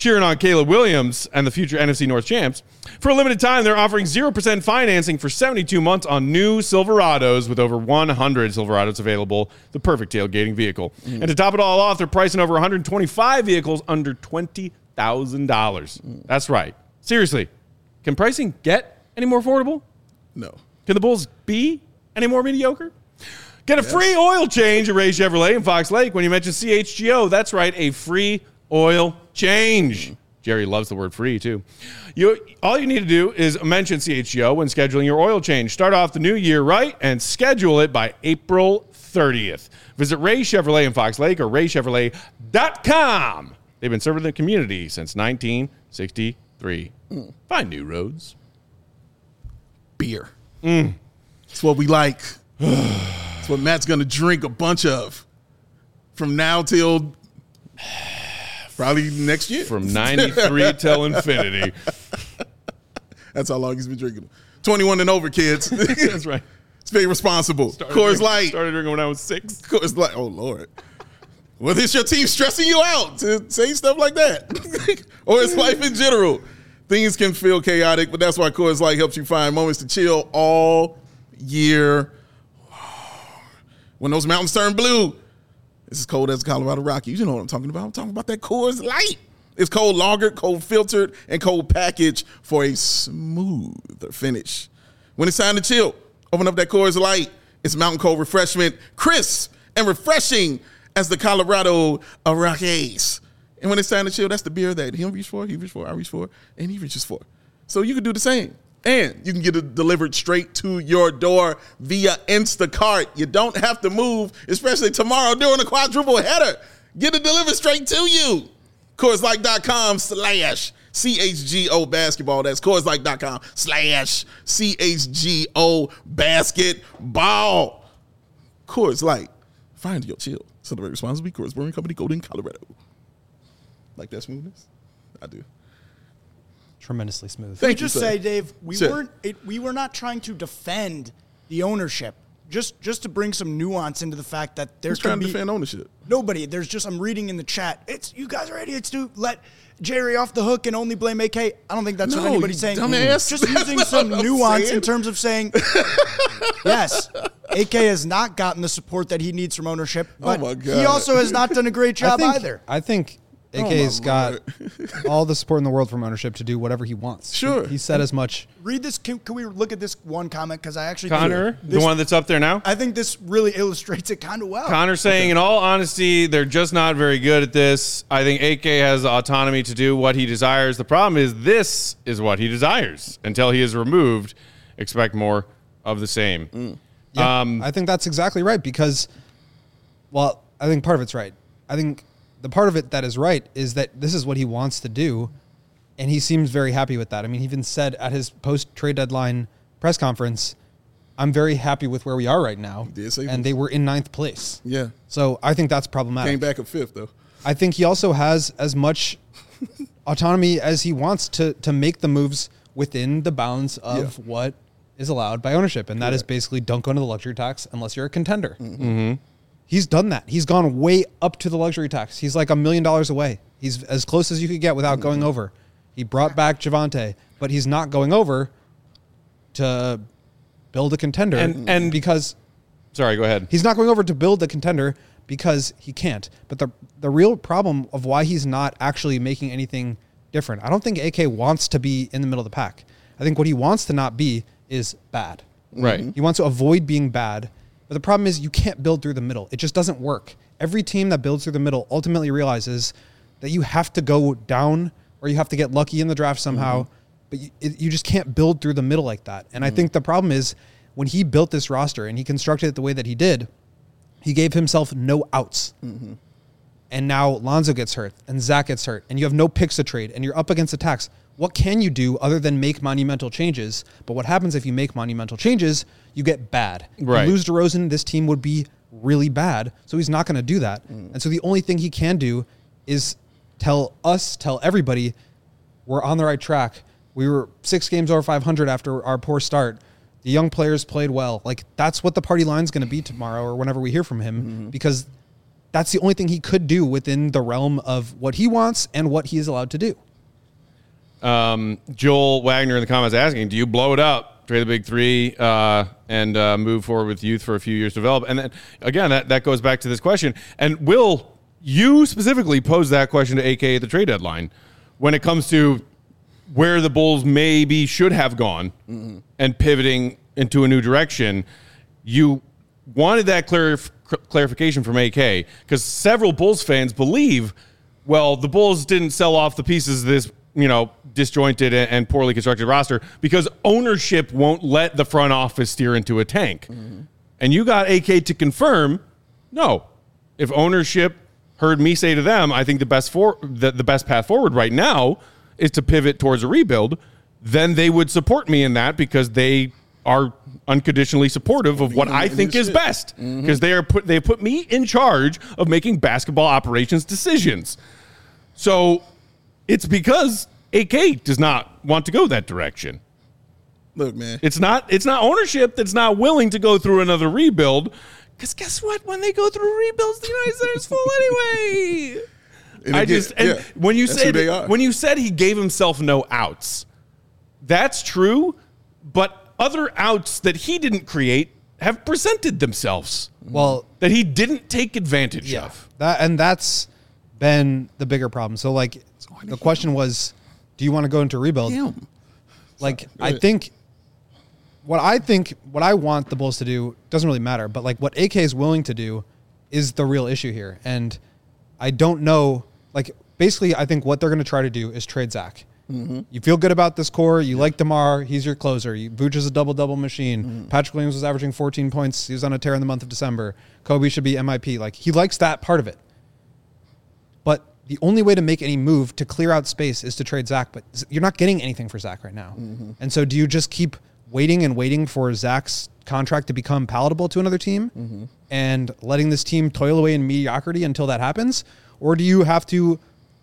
cheering on Caleb Williams and the future NFC North champs. For a limited time, they're offering 0% financing for 72 months on new Silverados with over 100 Silverados available, the perfect tailgating vehicle. And to top it all off, they're pricing over 125 vehicles under $20,000. That's right. Seriously, can pricing get any more affordable? No. Can the Bulls be any more mediocre? Get a free oil change at Ray Chevrolet in Fox Lake when you mention CHGO. That's right, a free oil change. Jerry loves the word free, too. All you need to do is mention CHGO when scheduling your oil change. Start off the new year right and schedule it by April 30th. Visit Ray Chevrolet in Fox Lake or raychevrolet.com. They've been serving the community since 1963. Find new roads. Beer. It's what we like. It's what Matt's going to drink a bunch of from now till probably next year. From 93 till infinity. That's how long he's been drinking. 21 and over, kids. That's right. Stay responsible. Coors Light. Started drinking when I was 6. Coors Light. Oh, Lord. Well, is your team stressing you out to say stuff like that? Or is life in general? Things can feel chaotic, but that's why Coors Light helps you find moments to chill all year. When those mountains turn blue, it's as cold as the Colorado Rockies. You know what I'm talking about. I'm talking about that Coors Light. It's cold lagered, cold filtered, and cold packaged for a smoother finish. When it's time to chill, open up that Coors Light. It's mountain cold refreshment, crisp and refreshing as the Colorado Rockies. And when it's time to chill, that's the beer that he reached for, I reach for, and he reaches for. So you can do the same. And you can get it delivered straight to your door via Instacart. You don't have to move, especially tomorrow during a quadruple header. Get it delivered straight to you. CoorsLight.com/CHGO basketball. That's CoorsLight.com/CHGO basketball. Coors Light. Find your chill. Celebrate responsibly. Coors Brewing Company, Golden, Colorado. Like that smoothness? I do. Tremendously smooth. Thank you, Just sir. say, Dave, we Sure. were not trying to defend the ownership. Just to bring some nuance into the fact that there's Who's trying to defend ownership? nobody. There's just I'm reading in the chat. It's you guys are idiots to let Jerry off the hook and only blame AK. I don't think that's No, what anybody's you saying. dumbass. Just That's using not some what I'm nuance saying. in terms of saying yes, AK has not gotten the support that he needs from ownership, but my he God. also has not done a great job either. I think Oh, AK's my got Lord. all the support in the world from ownership to do whatever he wants. Sure. He said as much. Read this. Can we look at this one comment? Because I actually Connor, think the one that's up there now? I think this really illustrates it kind of well. Connor saying, in all honesty, they're just not very good at this. I think AK has the autonomy to do what he desires. The problem is this is what he desires. Until he is removed, expect more of the same. Yeah, I think that's exactly right because, well, I think part of it's right. I think the part of it that is right is that this is what he wants to do, and he seems very happy with that. I mean, he even said at his post-trade deadline press conference, I'm very happy with where we are right now. He did say and this. they were in 9th place. Yeah. So I think that's problematic. Came back at 5th, though. I think he also has as much autonomy as he wants to make the moves within the bounds of what is allowed by ownership. And that is basically don't go into the luxury tax unless you're a contender. He's done that. He's gone way up to the luxury tax. He's like $1 million away. He's as close as you could get without going over. He brought back Javante, but he's not going over to build a contender. And because Sorry, go ahead. he's not going over to build a contender because he can't. But the real problem of why he's not actually making anything different, I don't think AK wants to be in the middle of the pack. I think what he wants to not be is bad. Right. He wants to avoid being bad. But the problem is you can't build through the middle. It just doesn't work. Every team that builds through the middle ultimately realizes that you have to go down or you have to get lucky in the draft somehow. But you just can't build through the middle like that. And I think the problem is when he built this roster and he constructed it the way that he did, he gave himself no outs. And now Lonzo gets hurt and Zach gets hurt and you have no picks to trade and you're up against the tax. What can you do other than make monumental changes? But what happens if you make monumental changes? You get bad. Right. You lose DeRozan, this team would be really bad. So he's not going to do that. And so the only thing he can do is tell everybody we're on the right track. We were 6 games over 500 after our poor start. The young players played well. Like that's what the party line's going to be tomorrow or whenever we hear from him because that's the only thing he could do within the realm of what he wants and what he is allowed to do. Joel Wagner in the comments asking, do you blow it up, trade the big three, and move forward with youth for a few years to develop? And then, again, that goes back to this question. And Will, you specifically posed that question to AK at the trade deadline when it comes to where the Bulls maybe should have gone and pivoting into a new direction. You wanted that clarification from AK because several Bulls fans believe, well, the Bulls didn't sell off the pieces of this, disjointed and poorly constructed roster because ownership won't let the front office steer into a tank. And you got AK to confirm, no, if ownership heard me say to them, I think the best path forward right now is to pivot towards a rebuild, then they would support me in that because they are unconditionally supportive of what I think is best because they put me in charge of making basketball operations decisions. So it's because AK does not want to go that direction. Look, man, it's not ownership that's not willing to go through another rebuild. Because guess what? When they go through rebuilds, the United Center is full anyway. When you said he gave himself no outs, that's true. But other outs that he didn't create have presented themselves. Well, that he didn't take advantage of. That's been the bigger problem. So, the question was, do you want to go into rebuild? I think what I want the Bulls to do doesn't really matter, but what AK is willing to do is the real issue here. And I don't know, basically I think what they're going to try to do is trade Zach. You feel good about this core. You like DeMar. He's your closer. Vooch is a double-double machine. Patrick Williams was averaging 14 points. He was on a tear in the month of December. Kobe should be MIP. He likes that part of it. But the only way to make any move to clear out space is to trade Zach. But you're not getting anything for Zach right now. And so do you just keep waiting for Zach's contract to become palatable to another team and letting this team toil away in mediocrity until that happens? Or do you have to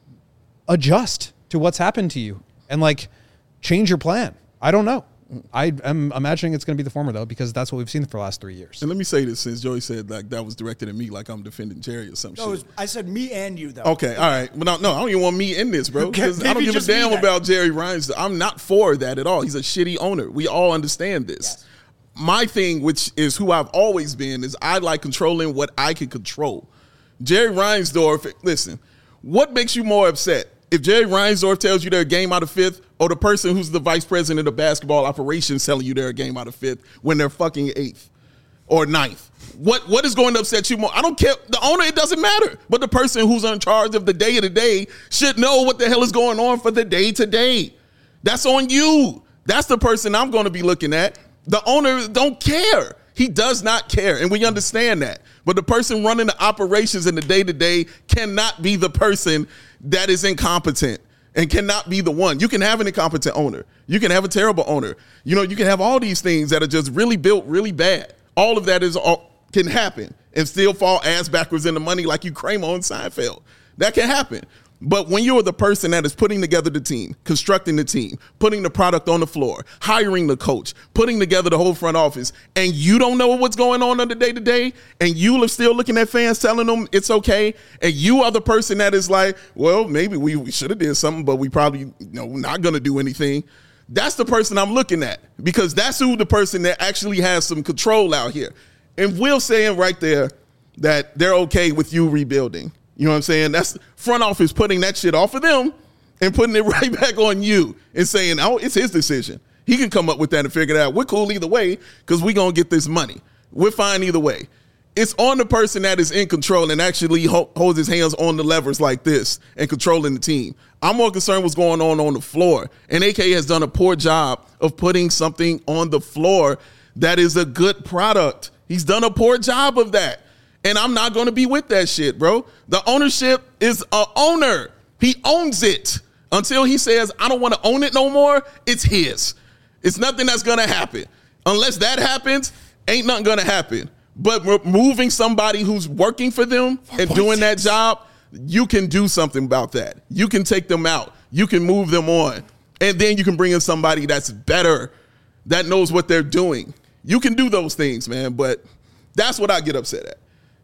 adjust to what's happened to you and change your plan? I don't know. I am imagining it's going to be the former though, because that's what we've seen for the last 3 years. And let me say this, since Joey said that was directed at me, I'm defending Jerry or something. No, I said me and you though. Okay, all right. Well, no, I don't even want me in this, bro. Because I don't give a damn about Jerry Reinsdorf. I'm not for that at all. He's a shitty owner. We all understand this. Yes. My thing, which is who I've always been, is I like controlling what I can control. Jerry Reinsdorf, listen, what makes you more upset? If Jerry Reinsdorf tells you they're a game out of fifth, or the person who's the vice president of basketball operations telling you they're a game out of fifth when they're fucking eighth or ninth, what is going to upset you more? I don't care. The owner, it doesn't matter. But the person who's in charge of the day-to-day should know what the hell is going on for the day-to-day. That's on you. That's the person I'm going to be looking at. The owner don't care. He does not care, and we understand that. But the person running the operations in the day-to-day cannot be the person that is incompetent and cannot be the one. You can have an incompetent owner. You can have a terrible owner. You can have all these things that are just really built really bad. All of that can happen and still fall ass backwards in the money like you Kramer on Seinfeld. That can happen. But when you're the person that is putting together the team, constructing the team, putting the product on the floor, hiring the coach, putting together the whole front office, and you don't know what's going on the day-to-day, and you are still looking at fans telling them it's okay, and you are the person that is like, well, maybe we should have did something, but we probably not going to do anything. That's the person I'm looking at, because that's who the person that actually has some control out here. And Will saying right there that they're okay with you rebuilding. You know what I'm saying? That's front office putting that shit off of them and putting it right back on you and saying, oh, it's his decision. He can come up with that and figure it out. We're cool either way because we're going to get this money. We're fine either way. It's on the person that is in control and actually holds his hands on the levers like this and controlling the team. I'm more concerned what's going on the floor. And AK has done a poor job of putting something on the floor that is a good product. He's done a poor job of that. And I'm not going to be with that shit, bro. The ownership is a owner. He owns it. Until he says, I don't want to own it no more, it's his. It's nothing that's going to happen. Unless that happens, ain't nothing going to happen. But removing somebody who's working for them and doing that job, you can do something about that. You can take them out. You can move them on. And then you can bring in somebody that's better, that knows what they're doing. You can do those things, man. But that's what I get upset at.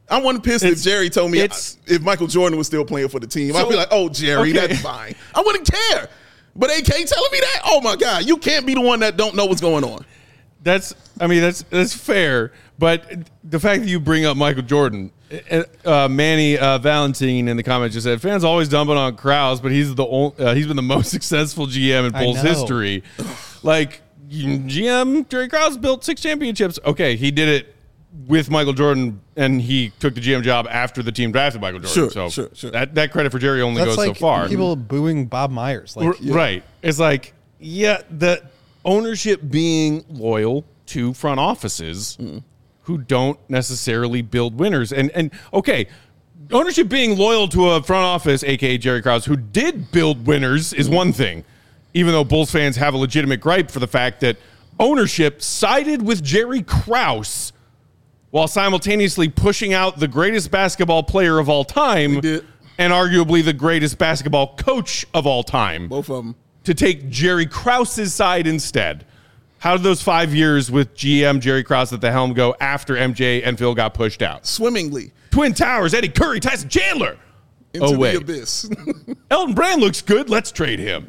I wasn't pissed if Jerry told me if Michael Jordan was still playing for the team. I'd be like, oh, Jerry, that's fine. I wouldn't care. But AK telling me that? Oh, my God. You can't be the one that don't know what's going on. That's fair. But the fact that you bring up Michael Jordan, Manny Valentine in the comments just said, fans always dumping on Krause, but he's been the most successful GM in Bulls history. Like, GM Jerry Krause built 6 championships. Okay, he did it with Michael Jordan, and he took the GM job after the team drafted Michael Jordan. Sure. That credit for Jerry only goes so far. People booing Bob Myers. Right. It's like, the ownership being loyal to front offices who don't necessarily build winners. And okay, ownership being loyal to a front office, a.k.a. Jerry Krause, who did build winners is one thing, even though Bulls fans have a legitimate gripe for the fact that ownership sided with Jerry Krause while simultaneously pushing out the greatest basketball player of all time and arguably the greatest basketball coach of all time. Both of them. To take Jerry Krause's side instead. How did those 5 years with GM Jerry Krause at the helm go after MJ and Phil got pushed out? Swimmingly. Twin Towers, Eddie Curry, Tyson Chandler. Into the abyss. Elton Brand looks good. Let's trade him.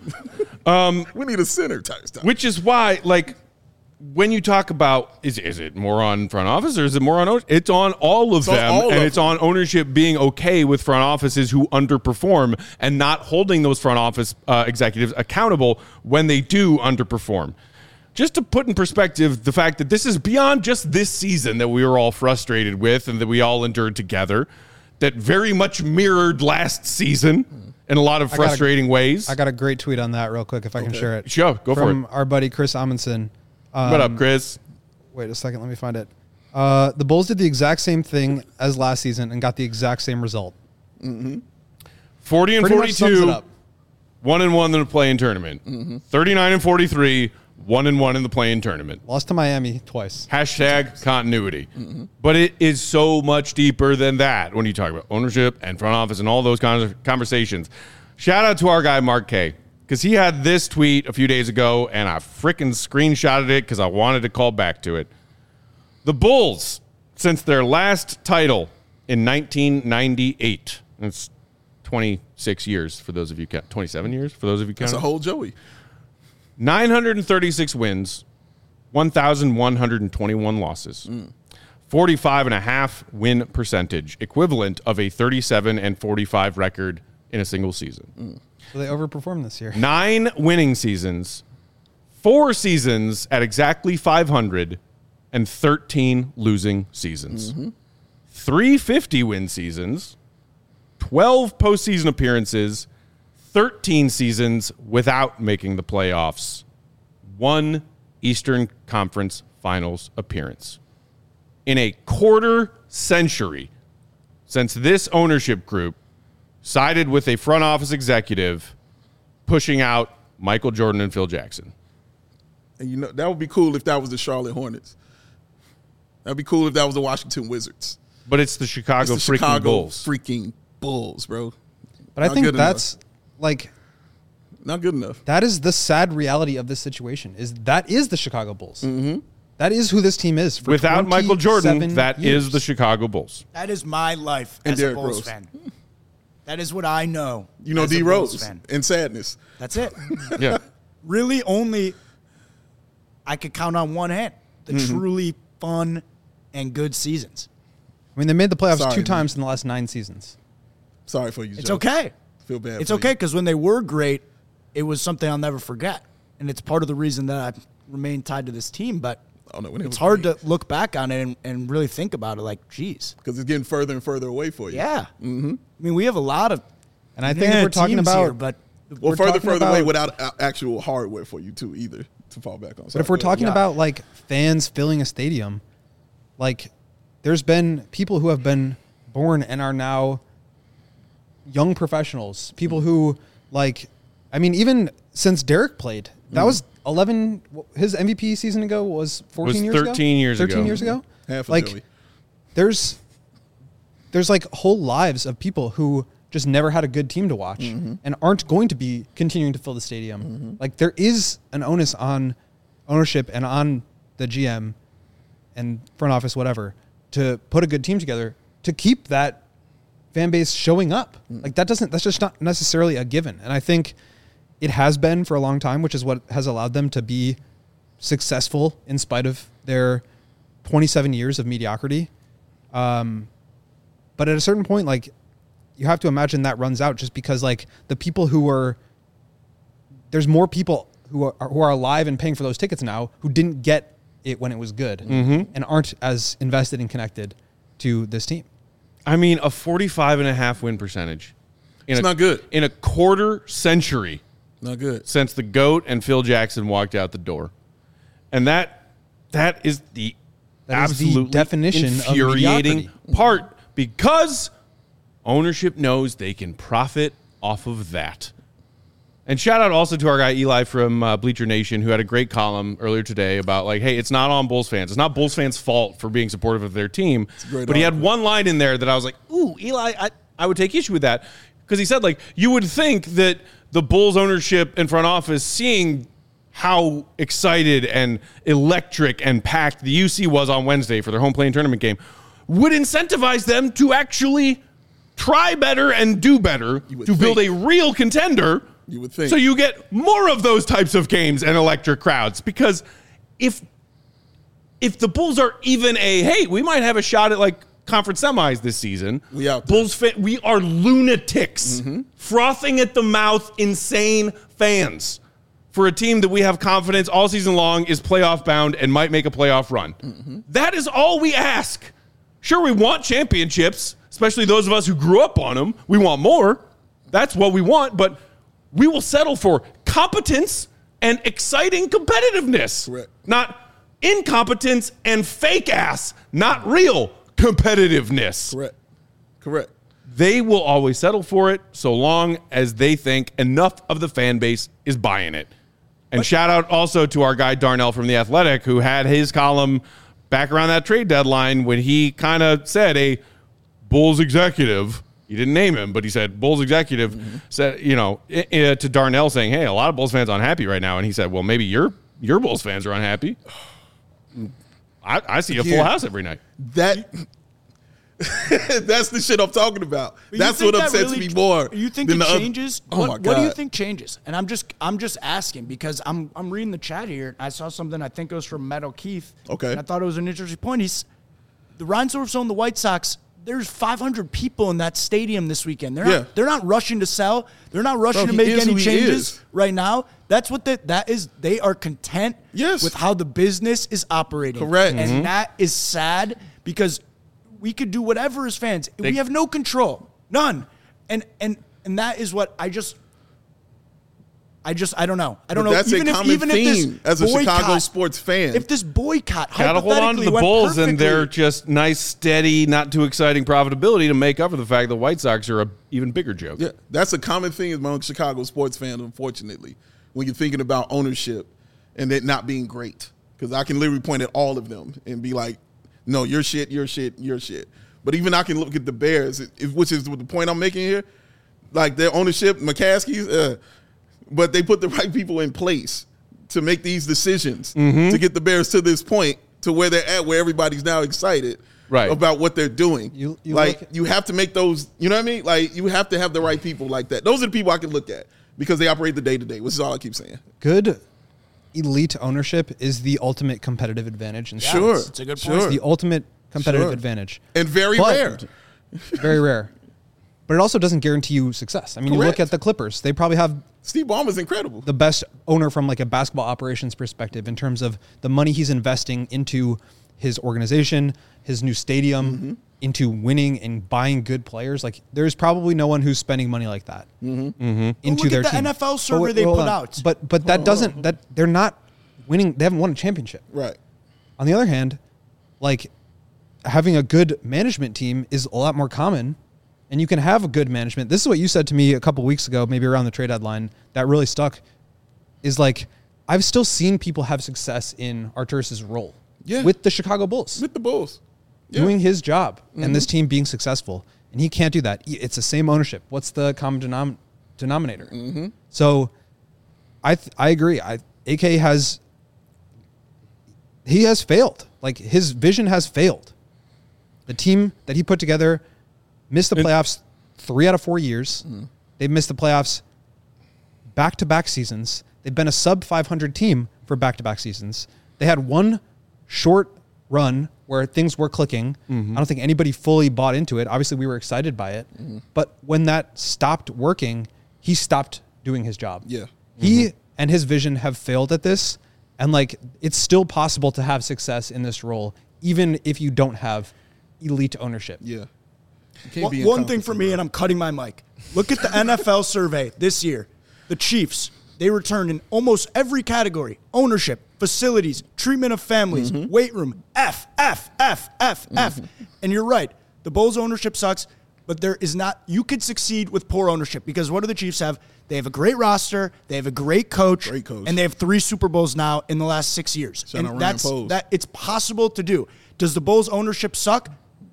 We need a center type stuff. Which is why, like, when you talk about, is it more on front office or is it more on ownership? It's on all of them, and it's on ownership being okay with front offices who underperform and not holding those front office executives accountable when they do underperform. Just to put in perspective the fact that this is beyond just this season that we were all frustrated with and that we all endured together, that very much mirrored last season in a lot of frustrating ways. I got a great tweet on that real quick if I can share it. Sure, go for it. From our buddy Chris Amundsen. What up, Chris? Wait a second, let me find it. The Bulls did the exact same thing as last season and got the exact same result. 40 and Pretty 42, 1-1 in the play-in tournament. 39 and 43, 1-1 in the play-in tournament. Lost to Miami twice. Hashtag continuity. But it is so much deeper than that when you talk about ownership and front office and all those kinds of conversations. Shout out to our guy, Mark K., because he had this tweet a few days ago, and I freaking screenshotted it because I wanted to call back to it. The Bulls, since their last title in 1998, that's 26 years for those of you count, 27 years for those of you counting. That's a whole Joey. 936 wins, 1,121 losses, 45.5 win percentage, equivalent of a 37 and 45 record in a single season. So they overperformed this year. 9 winning seasons, 4 seasons at exactly 500, and 13 losing seasons. 350 win seasons, 12 postseason appearances, 13 seasons without making the playoffs, 1 Eastern Conference Finals appearance. In a quarter century since this ownership group sided with a front office executive pushing out Michael Jordan and Phil Jackson. And you know, that would be cool if that was the Charlotte Hornets. That'd be cool if that was the Washington Wizards. But it's the Chicago Bulls. Freaking Bulls, bro. But I think that's like not good enough. That is the sad reality of this situation. That is the Chicago Bulls. That is who this team is. For without Michael Jordan, that is the Chicago Bulls. That is my life as a Bulls fan. That is what I know. You know D Rose and sadness. That's it. Yeah. Really only I could count on one hand the truly fun and good seasons. I mean, they made the playoffs 2 times in the last 9 seasons. Sorry for you, Joe. It's okay. Feel bad. It's okay because when they were great, it was something I'll never forget. And it's part of the reason that I remain tied to this team. But it's hard to look back on it and really think about it like, geez. Because it's getting further and further away for you. Yeah. I mean, we have a lot of and I think if we're talking about here, but further away without actual hardware for you too either to fall back on. But if we're talking about like fans filling a stadium, like there's been people who have been born and are now young professionals, people who like, I mean, even since Derek played, that was 11. His MVP season ago was 14 years ago. 13 years ago. 13 years ago. Half of like, Joey. There's like whole lives of people who just never had a good team to watch and aren't going to be continuing to fill the stadium. Like there is an onus on ownership and on the GM and front office, whatever, to put a good team together to keep that fan base showing up. Like that's just not necessarily a given. And I think it has been for a long time, which is what has allowed them to be successful in spite of their 27 years of mediocrity. But at a certain point, like, you have to imagine that runs out just because, like, the people there's more people who are alive and paying for those tickets now who didn't get it when it was good and aren't as invested and connected to this team. I mean, a 45.5 win percentage. It's not good. In a quarter century. Not good. Since the GOAT and Phil Jackson walked out the door. And that is the absolutely definition infuriating of part, because ownership knows they can profit off of that. And shout out also to our guy Eli from Bleacher Nation, who had a great column earlier today about, like, hey, it's not on Bulls fans. It's not Bulls fans' fault for being supportive of their team. But he had one line in there that I was like, ooh, Eli, I would take issue with that. Because he said, like, you would think that the Bulls ownership and front office, seeing how excited and electric and packed the UC was on Wednesday for their home playing tournament game, would incentivize them to actually try better and do better to build a real contender. You would think. So you get more of those types of games and electric crowds. Because if the Bulls are even hey, we might have a shot at, like, conference semis this season. We are lunatics, frothing at the mouth, insane fans for a team that we have confidence all season long is playoff bound and might make a playoff run. That is all we ask. Sure, we want championships, especially those of us who grew up on them. We want more. That's what we want, but we will settle for competence and exciting competitiveness. Correct. Not incompetence and fake ass, not real competitiveness. Correct. They will always settle for it so long as they think enough of the fan base is buying it. And shout out also to our guy Darnell from The Athletic, who had his column back around that trade deadline when he kind of said a Bulls executive, he didn't name him, but he said Bulls executive said, to Darnell saying, hey, a lot of Bulls fans are unhappy right now. And he said, well, maybe your Bulls fans are unhappy. I see a full house every night. That's the shit I'm talking about. That's what upsets me more. You think it changes? What do you think changes? And I'm just asking because I'm reading the chat here. I saw something, I think it was from Matt O'Keefe. Okay. And I thought it was an interesting point. The Reinsdorfs own the White Sox. There's 500 people in that stadium this weekend. They're not rushing to sell. They're not rushing to make any changes right now. That's what that is. They are content with how the business is operating. Correct. And that is sad because we could do whatever as fans. We have no control. None. And that is what I don't know. I don't know. That's a common theme as a Chicago sports fan. If this boycott gotta hold on to the Bulls and their just nice, steady, not too exciting profitability to make up for the fact the White Sox are a even bigger joke. Yeah, that's a common thing among Chicago sports fans, unfortunately, when you're thinking about ownership and it not being great. Because I can literally point at all of them and be like, no, you're shit, you're shit, you're shit. But even I can look at the Bears, which is the point I'm making here. Like their ownership, McCaskey's, but they put the right people in place to make these decisions to get the Bears to this point, to where they're at, where everybody's now excited about what they're doing. You have to make those, you know what I mean? Like, you have to have the right people like that. Those are the people I can look at because they operate the day-to-day, which is all I keep saying. Good elite ownership is the ultimate competitive advantage. And sure. It's a good point. It's the ultimate competitive advantage. And very rare. Very rare. But it also doesn't guarantee you success. I mean, you look at the Clippers. They probably have Steve Ballmer's incredible. The best owner from like a basketball operations perspective in terms of the money he's investing into his organization, his new stadium, into winning and buying good players. Like, there's probably no one who's spending money like that into their team. The NFL survey they put out. But that doesn't, that they're not winning. They haven't won a championship. Right. On the other hand, like, having a good management team is a lot more common. And you can have a good management. This is what you said to me a couple weeks ago, maybe around the trade deadline, that really stuck, is like, I've still seen people have success in Arturas's role with the Chicago Bulls. With the Bulls. Doing his job and this team being successful. And he can't do that. It's the same ownership. What's the common denominator? So I agree. AK has failed. Like, his vision has failed. The team that he put together missed the playoffs 3 out of 4 years. They've missed the playoffs back-to-back seasons. They've been a sub-500 team for back-to-back seasons. They had one short run where things were clicking. I don't think anybody fully bought into it. Obviously, we were excited by it. But when that stopped working, he stopped doing his job. Yeah. He and his vision have failed at this. And, like, it's still possible to have success in this role, even if you don't have elite ownership. Yeah. One thing for me, and I'm cutting my mic. Look at the NFL survey this year. The Chiefs, they returned in almost every category: ownership, facilities, treatment of families, weight room, F. And you're right. The Bulls ownership sucks, but there is not, you could succeed with poor ownership, because what do the Chiefs have? They have a great roster, they have a great coach, and they have 3 Super Bowls now in the last 6 years. Shout out And Ryan Poles. it's possible to do. Does the Bulls ownership suck?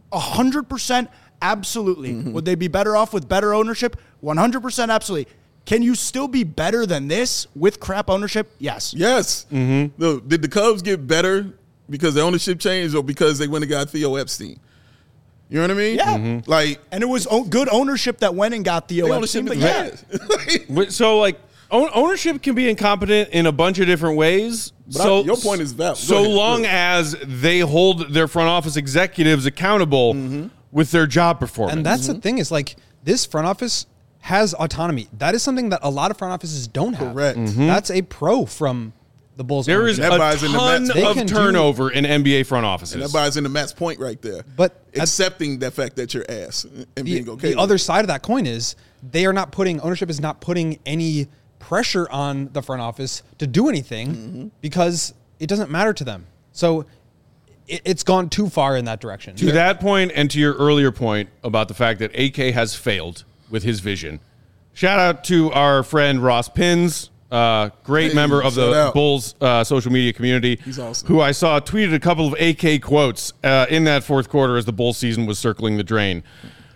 100%, absolutely. Would they be better off with better ownership? 100%, absolutely. Can you still be better than this with crap ownership? Yes. Yes. Look, did the Cubs get better because the ownership changed, or because they went and got Theo Epstein? You know what I mean? Yeah. Like, And it was good ownership that went and got Theo Epstein. But yeah. So, like, ownership can be incompetent in a bunch of different ways. But your point is valid. Go So ahead. long as they hold their front office executives accountable with their job performance. And that's the thing, is like, this front office has autonomy. That is something that a lot of front offices don't have. Correct. That's a pro from the Bulls. there is ownership. a That buys into ton Matt's- They of can do- turnover in NBA front offices. And that buys into Matt's point right there. But accepting that fact that you're ass and being okay. The other side of that coin is ownership is not putting any pressure on the front office to do anything because it doesn't matter to them. So it's gone too far in that direction. To that point, and to your earlier point about the fact that AK has failed with his vision, shout out to our friend Ross Pins, great member of shout the out. Bulls social media community. He's awesome. Who I saw tweeted a couple of AK quotes in that fourth quarter as the Bulls season was circling the drain.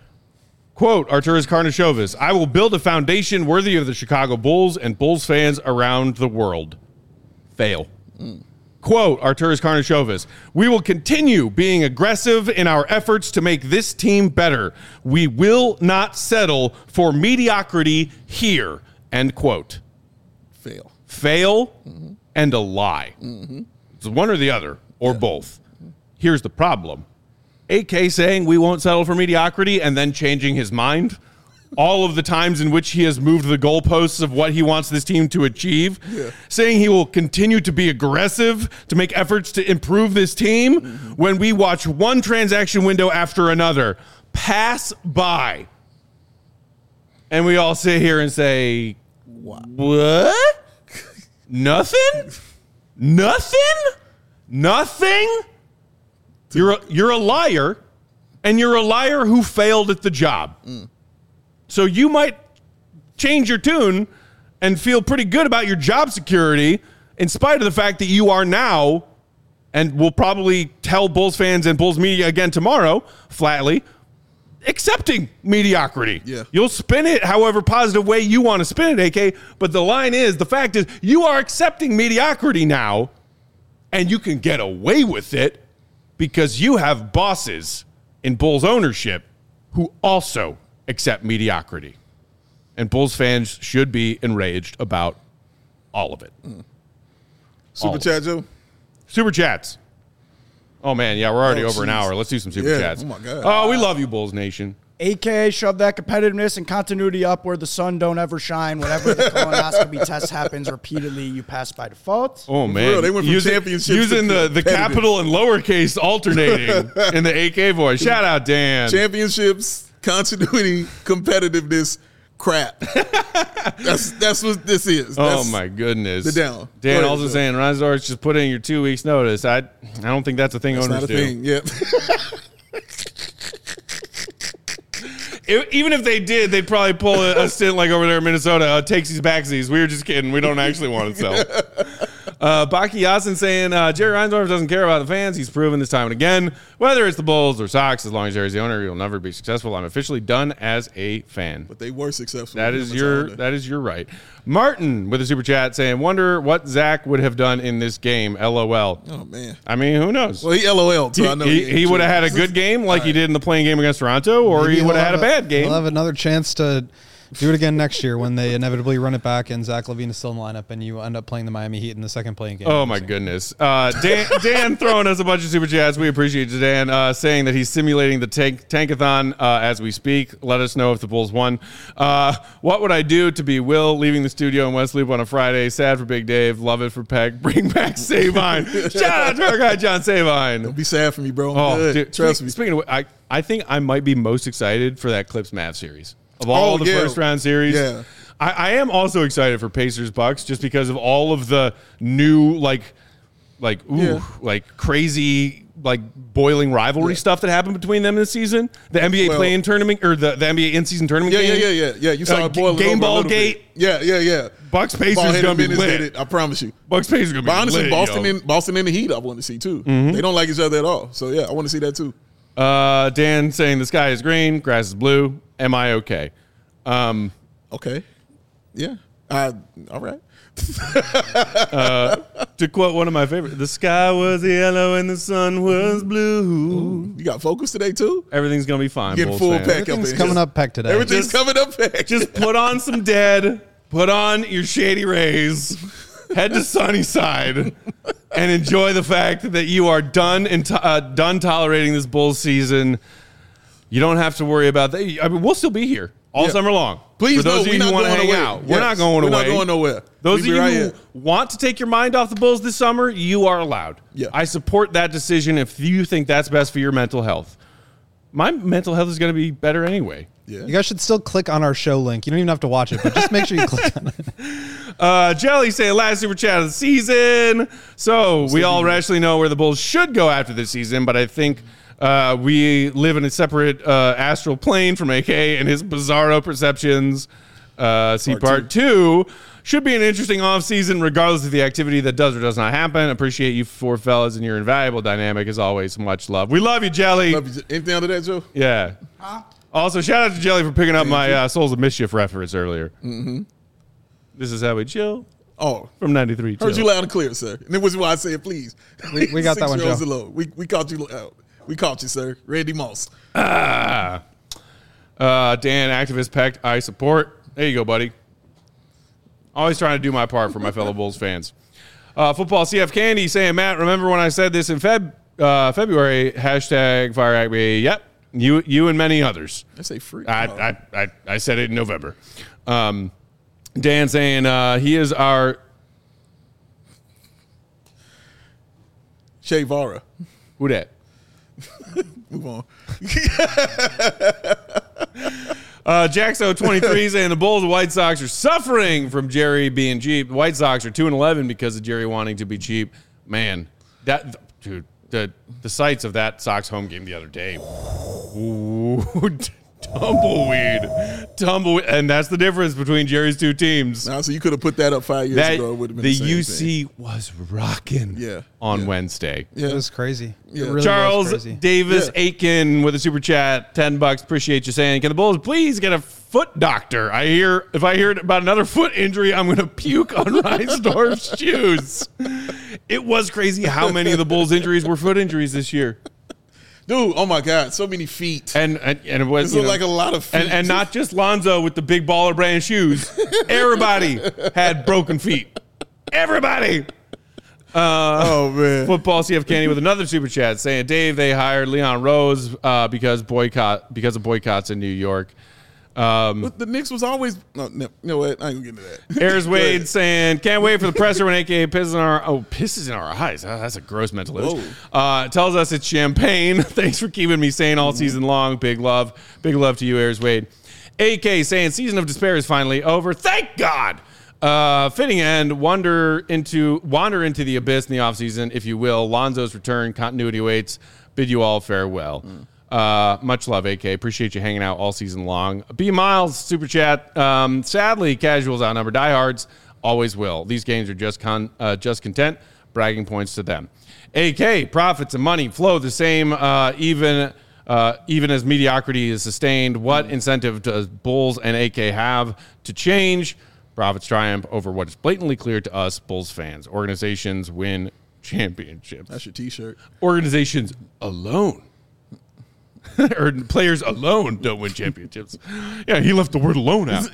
Quote, Arturas Karnisovas, I will build a foundation worthy of the Chicago Bulls and Bulls fans around the world. Fail. Quote, Arturas Karnisovas, we will continue being aggressive in our efforts to make this team better. We will not settle for mediocrity here. End quote. fail. Fail and a lie. It's one or the other, or both. Here's the problem. AK saying we won't settle for mediocrity and then changing his mind. All of the times in which he has moved the goalposts of what he wants this team to achieve. Saying he will continue to be aggressive to make efforts to improve this team when we watch one transaction window after another pass by. And we all sit here and say, what? Nothing? Nothing? You're a liar, and you're a liar who failed at the job. So you might change your tune and feel pretty good about your job security in spite of the fact that you are now, and will probably tell Bulls fans and Bulls media again tomorrow, flatly, accepting mediocrity. Yeah. You'll spin it however positive way you want to spin it, AK, but the fact is, you are accepting mediocrity now, and you can get away with it because you have bosses in Bulls ownership who also accept mediocrity. And Bulls fans should be enraged about all of it. Super chat, Joe? Super chats. Oh, man, yeah, we're already Oh, over an jeez. hour. Let's do some super Yeah, chats. oh my God. Oh, we love you, Bulls Nation. AKA shove that competitiveness and continuity up where the sun don't ever shine. Whenever the colonoscopy test happens repeatedly, you pass by default. Oh, man. real, they went from championships using to the competitive. capital and lowercase alternating in the AK voice. Shout out, Dan. Championships, continuity, competitiveness, crap. That's what this is. Oh, That's my goodness. the down. Dan Go ahead, also Joe. saying, Razor's just put in your 2 weeks notice. I don't think that's a thing It's owners not a do. thing. Yeah. Even if they did, they'd probably pull a stint like over there in Minnesota, takesies backsies. We were just kidding. We don't actually want to sell. Baki Yasin saying, Jerry Reinsdorf doesn't care about the fans. He's proven this time and again. Whether it's the Bulls or Sox, as long as Jerry's the owner, he'll never be successful. I'm officially done as a fan. But they were successful. That is your right. Martin with a super chat saying, wonder what Zach would have done in this game. LOL. Oh, man. I mean, who knows? Well, he LOL'd, so I know he would have had a good game like he did in the playing game against Toronto, or Maybe he would have had a bad game. He'll have another chance to do it again next year when they inevitably run it back and Zach LaVine is still in the lineup and you end up playing the Miami Heat in the second playing game. Oh, my goodness. Dan throwing us a bunch of super chats. We appreciate you, Dan, saying that he's simulating the tankathon as we speak. Let us know if the Bulls won. What would I do to be Will leaving the studio in West Loop on a Friday? Sad for Big Dave. Love it for Peck. Bring back Savine. Shout out to our guy, John Savine. Don't be sad for me, bro. Oh, good. Dude, Trust me. Speaking of, I think I might be most excited for that Clips-Mavs series. Of all the first round series, I am also excited for Pacers Bucks just because of all of the new crazy boiling rivalry stuff that happened between them this season. The NBA play-in tournament or the NBA in-season tournament game. Yeah. You saw it boiling game over ball a little gate. bit. Yeah. Bucks Pacers gonna be lit. I promise you. Bucks Pacers gonna be but honestly, lit. Boston and the Heat, I want to see too. They don't like each other at all. So yeah, I want to see that too. Dan saying the sky is green, grass is blue. Am I okay? Okay. Yeah. All right. To quote one of my favorites, the sky was yellow and the sun was blue. You got focus today too? Everything's going to be fine. Getting full Peck up Everything's coming up Peck today. Everything's coming up Peck. Just put on some Dead, put on your Shady Rays, head to Sunnyside, and enjoy the fact that you are done tolerating this Bulls season. You don't have to worry about that. I mean, we'll still be here all summer long. Please, for those of you who want to hang out, we're not going away. We're not going nowhere. Those of you who want to take your mind off the Bulls this summer, you are allowed. Yeah. I support that decision if you think that's best for your mental health. My mental health is going to be better anyway. Yeah. You guys should still click on our show link. You don't even have to watch it, but just make sure you click on it. Jelly saying last super chat of the season. So we all rationally know where the Bulls should go after this season, but I think we live in a separate astral plane from AK and his bizarro perceptions. Part two. Should be an interesting offseason regardless of the activity that does or does not happen. Appreciate you four fellas and your invaluable dynamic as always. Much love. We love you, Jelly. Love you. Anything under that, Joe? Yeah. Also, shout out to Jelly for picking up my Souls of Mischief reference earlier. Mm-hmm. This is how we chill. Oh, from 93. Heard you loud and clear, sir. And it was why I said, please. We got that one, Joe. We caught you out. We caught you, sir. Randy Moss. Dan, activist Peck, I support. There you go, buddy. Always trying to do my part for my fellow Bulls fans. Football CF Candy saying, Matt, remember when I said this in February, hashtag fire at me. Yep. You and many others. I say free. I said it in November. Dan saying he is our Shea Vara. Who that? Move on. Jaxo23 saying the Bulls and White Sox are suffering from Jerry being cheap. The White Sox are 2-11 because of Jerry wanting to be cheap. Man, the sights of that Sox home game the other day. Ooh, tumbleweed, and that's the difference between Jerry's two teams. So you could have put that up 5 years ago. It would have been the UC thing. Was rocking. on Wednesday. It was crazy. Yeah. It really Charles was crazy. Davis Aiken with a super chat, $10. Appreciate you saying, can the Bulls please get a foot doctor? If I hear about another foot injury, I'm going to puke on Reinsdorf's shoes. It was crazy how many of the Bulls' injuries were foot injuries this year. Dude, oh my God, so many feet. And it was like a lot of feet. And not just Lonzo with the big baller brand shoes. Everybody had broken feet. Everybody. Oh man. Football CF Candy with another super chat saying, Dave, they hired Leon Rose because of boycotts in New York. But the Knicks was always no, what? I ain't gonna get into that. Ayers Wade saying, can't wait for the presser when AKA pisses in our eyes. That's a gross mental image. Tells us it's champagne. Thanks for keeping me sane all season long. Big love to you, Ayers Wade. AK saying season of despair is finally over. Thank God. Fitting end, wander into the abyss in the offseason, if you will. Lonzo's return, continuity waits. Bid you all farewell. Much love, AK. Appreciate you hanging out all season long. B Miles, super chat. Sadly, casuals outnumber diehards. always will. These games are just content, bragging points to them. AK, profits and money flow the same, even as mediocrity is sustained. What incentive does Bulls and AK have to change? Profits triumph over what is blatantly clear to us, Bulls fans. Organizations win championships. That's your T-shirt. Organizations alone. Or players alone don't win championships. Yeah, he left the word alone out.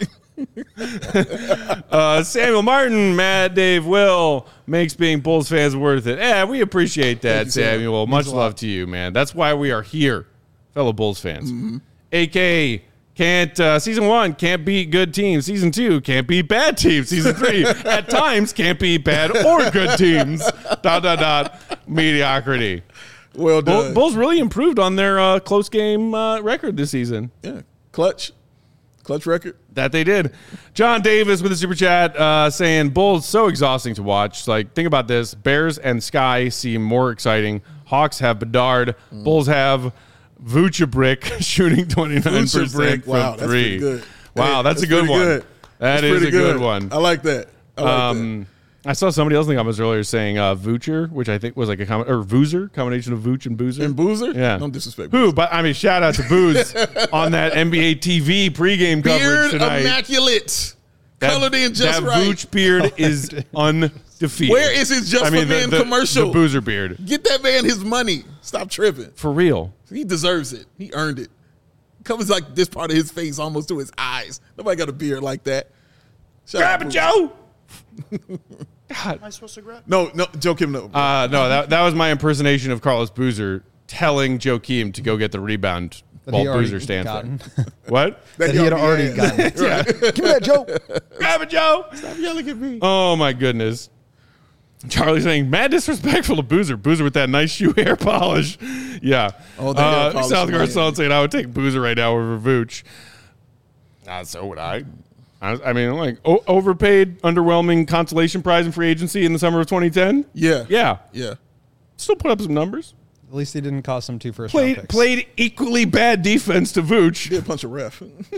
Samuel Martin, Matt, Dave, Will makes being Bulls fans worth it. Yeah, we appreciate that, Samuel. Much love to you, man. That's why we are here, fellow Bulls fans. AK can't season 1 can't beat good teams. Season 2 can't beat bad teams. Season 3 at times can't beat bad or good teams. ... Mediocrity. Well done. Bulls really improved on their close game record this season. Yeah, clutch record. That they did. John Davis with a super chat saying, Bulls so exhausting to watch. It's like, think about this. Bears and Sky seem more exciting. Hawks have Bedard. Bulls have Vucevic shooting 29% Wow, from that's 3. good. Wow, Hey, that's a good one. Good. That is a good one. I like that. I saw somebody else in the comments earlier saying Vucer, which I think was like or Voozer, combination of Vooch and Boozer. And Boozer? Yeah. Don't disrespect Who? Boozer. But I mean, shout out to Booze on that NBA TV pregame coverage Beard tonight. immaculate. Colored in just that right. Vooch beard is undefeated. Where is his Just for Men commercial? The Boozer beard. Get that man his money. Stop tripping. For real. He deserves it. He earned it. Covers like this part of his face almost to his eyes. Nobody got a beard like that. Grab it, Joe. God. Am I supposed to grab? No, Joe Kim, no. No, that was my impersonation of Carlos Boozer telling Joakim to go get the rebound while Boozer stands there. What? That he had already gotten. Yeah. Give me that, Joe. Grab it, Joe. Stop yelling at me. Oh, my goodness. Charlie saying, mad disrespectful to Boozer. Boozer with that nice shoe hair polish. Yeah. Oh, the hair polish. South Garcon saying, I would take Boozer right now over Vooch. So would I. I mean, like, overpaid, underwhelming consolation prize in free agency in the summer of 2010? Yeah. Yeah. Still put up some numbers. At least he didn't cost him 2 first-round picks. Played equally bad defense to Vooch. Did punch a ref.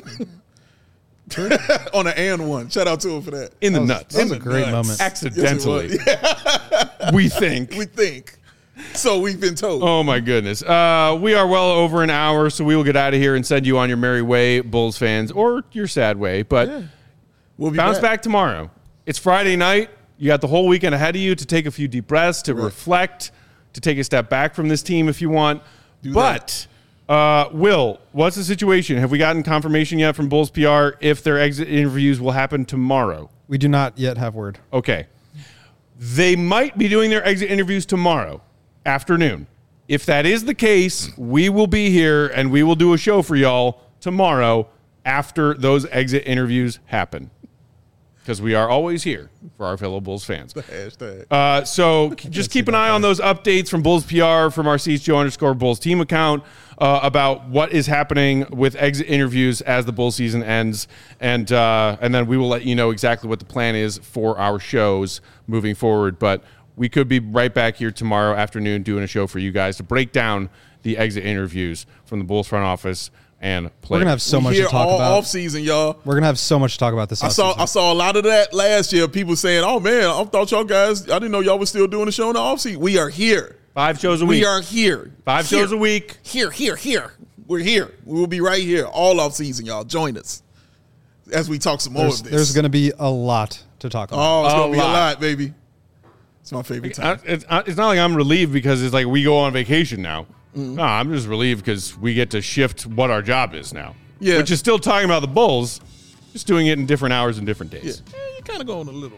On an and one. Shout out to him for that. In the nuts. That was a great moment. Accidentally. Yes, We think. we think. So we've been told. Oh, my goodness. We are well over an hour, so we will get out of here and send you on your merry way, Bulls fans, or your sad way. But We'll be bounce back tomorrow. It's Friday night. You got the whole weekend ahead of you to take a few deep breaths, to reflect, to take a step back from this team if you want. But, Will, what's the situation? Have we gotten confirmation yet from Bulls PR if their exit interviews will happen tomorrow? We do not yet have word. Okay. They might be doing their exit interviews tomorrow afternoon. If that is the case, we will be here and we will do a show for y'all tomorrow after those exit interviews happen. Because we are always here for our fellow Bulls fans. The hashtag. So just keep an eye on those updates from Bulls PR, from our CHGO_Bulls team account about what is happening with exit interviews as the Bulls season ends. And then we will let you know exactly what the plan is for our shows moving forward. But we could be right back here tomorrow afternoon doing a show for you guys to break down the exit interviews from the Bulls front office and players. We're going to have so much to talk all about. Off season, y'all. We're going to have so much to talk about this I saw a lot of that last year. People saying, "Oh man, I thought y'all guys. I didn't know y'all were still doing the show in the off season." We are here. 5 shows a week. We are here. 5 shows a week. Here. We're here. We will be right here all off season, y'all. Join us as we talk some more of this. There's going to be a lot to talk about. Oh, it's going to be a lot, baby. It's my favorite time. It's not like I'm relieved because it's like we go on vacation now. No, I'm just relieved because we get to shift what our job is now. Yeah. Which is still talking about the Bulls, just doing it in different hours and different days. Yeah. You kind of go on a little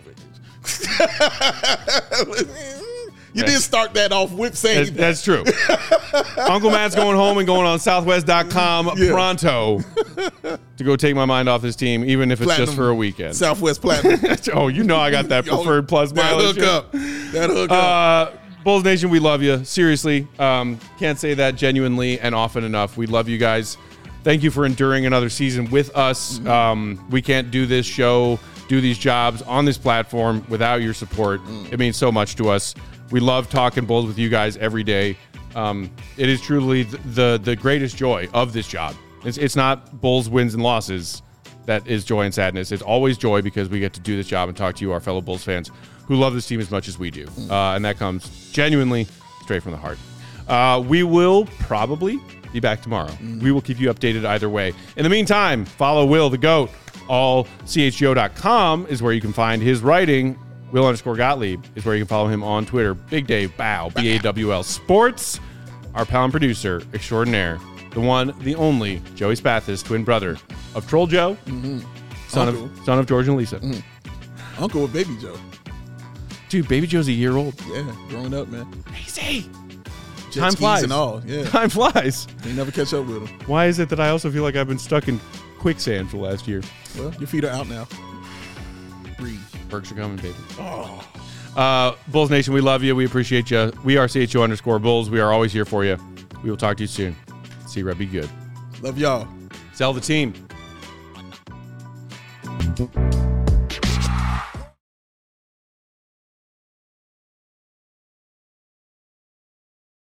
vacation. You did start that off with saying That's true. Uncle Matt's going home and going on Southwest.com pronto to go take my mind off this team, even if it's just for a weekend. Southwest Platinum. Oh, you know I got that preferred plus mileage. That hook up. Bulls Nation, we love you. Seriously. Can't say that genuinely and often enough. We love you guys. Thank you for enduring another season with us. We can't do this show, do these jobs on this platform without your support. It means so much to us. We love talking Bulls with you guys every day. It is truly the greatest joy of this job. It's not Bulls wins and losses. that is joy and sadness. It's always joy because we get to do this job and talk to you, our fellow Bulls fans, who love this team as much as we do. And that comes genuinely straight from the heart. We will probably be back tomorrow. We will keep you updated either way. In the meantime, follow Will the GOAT. AllCHGO.com is where you can find his writing. Will_Gottlieb is where you can follow him on Twitter. Big Dave Bow, BAWL Sports. Our pal and producer extraordinaire, the one, the only, Joey Spathis, twin brother of Troll Joe, son of George and Lisa. Uncle with Baby Joe. Dude, Baby Joe's a year old. Yeah, growing up, man. Crazy. Jet Time skis flies. and all. Yeah. Time flies. You never catch up with him. Why is it that I also feel like I've been stuck in quicksand for the last year? Well, your feet are out now. Breathe. Perks are coming, baby. Bulls Nation, we love you. We appreciate you. We are CHO_Bulls. We are always here for you. We will talk to you soon. See you, Red. Be good. Love y'all. Sell the team.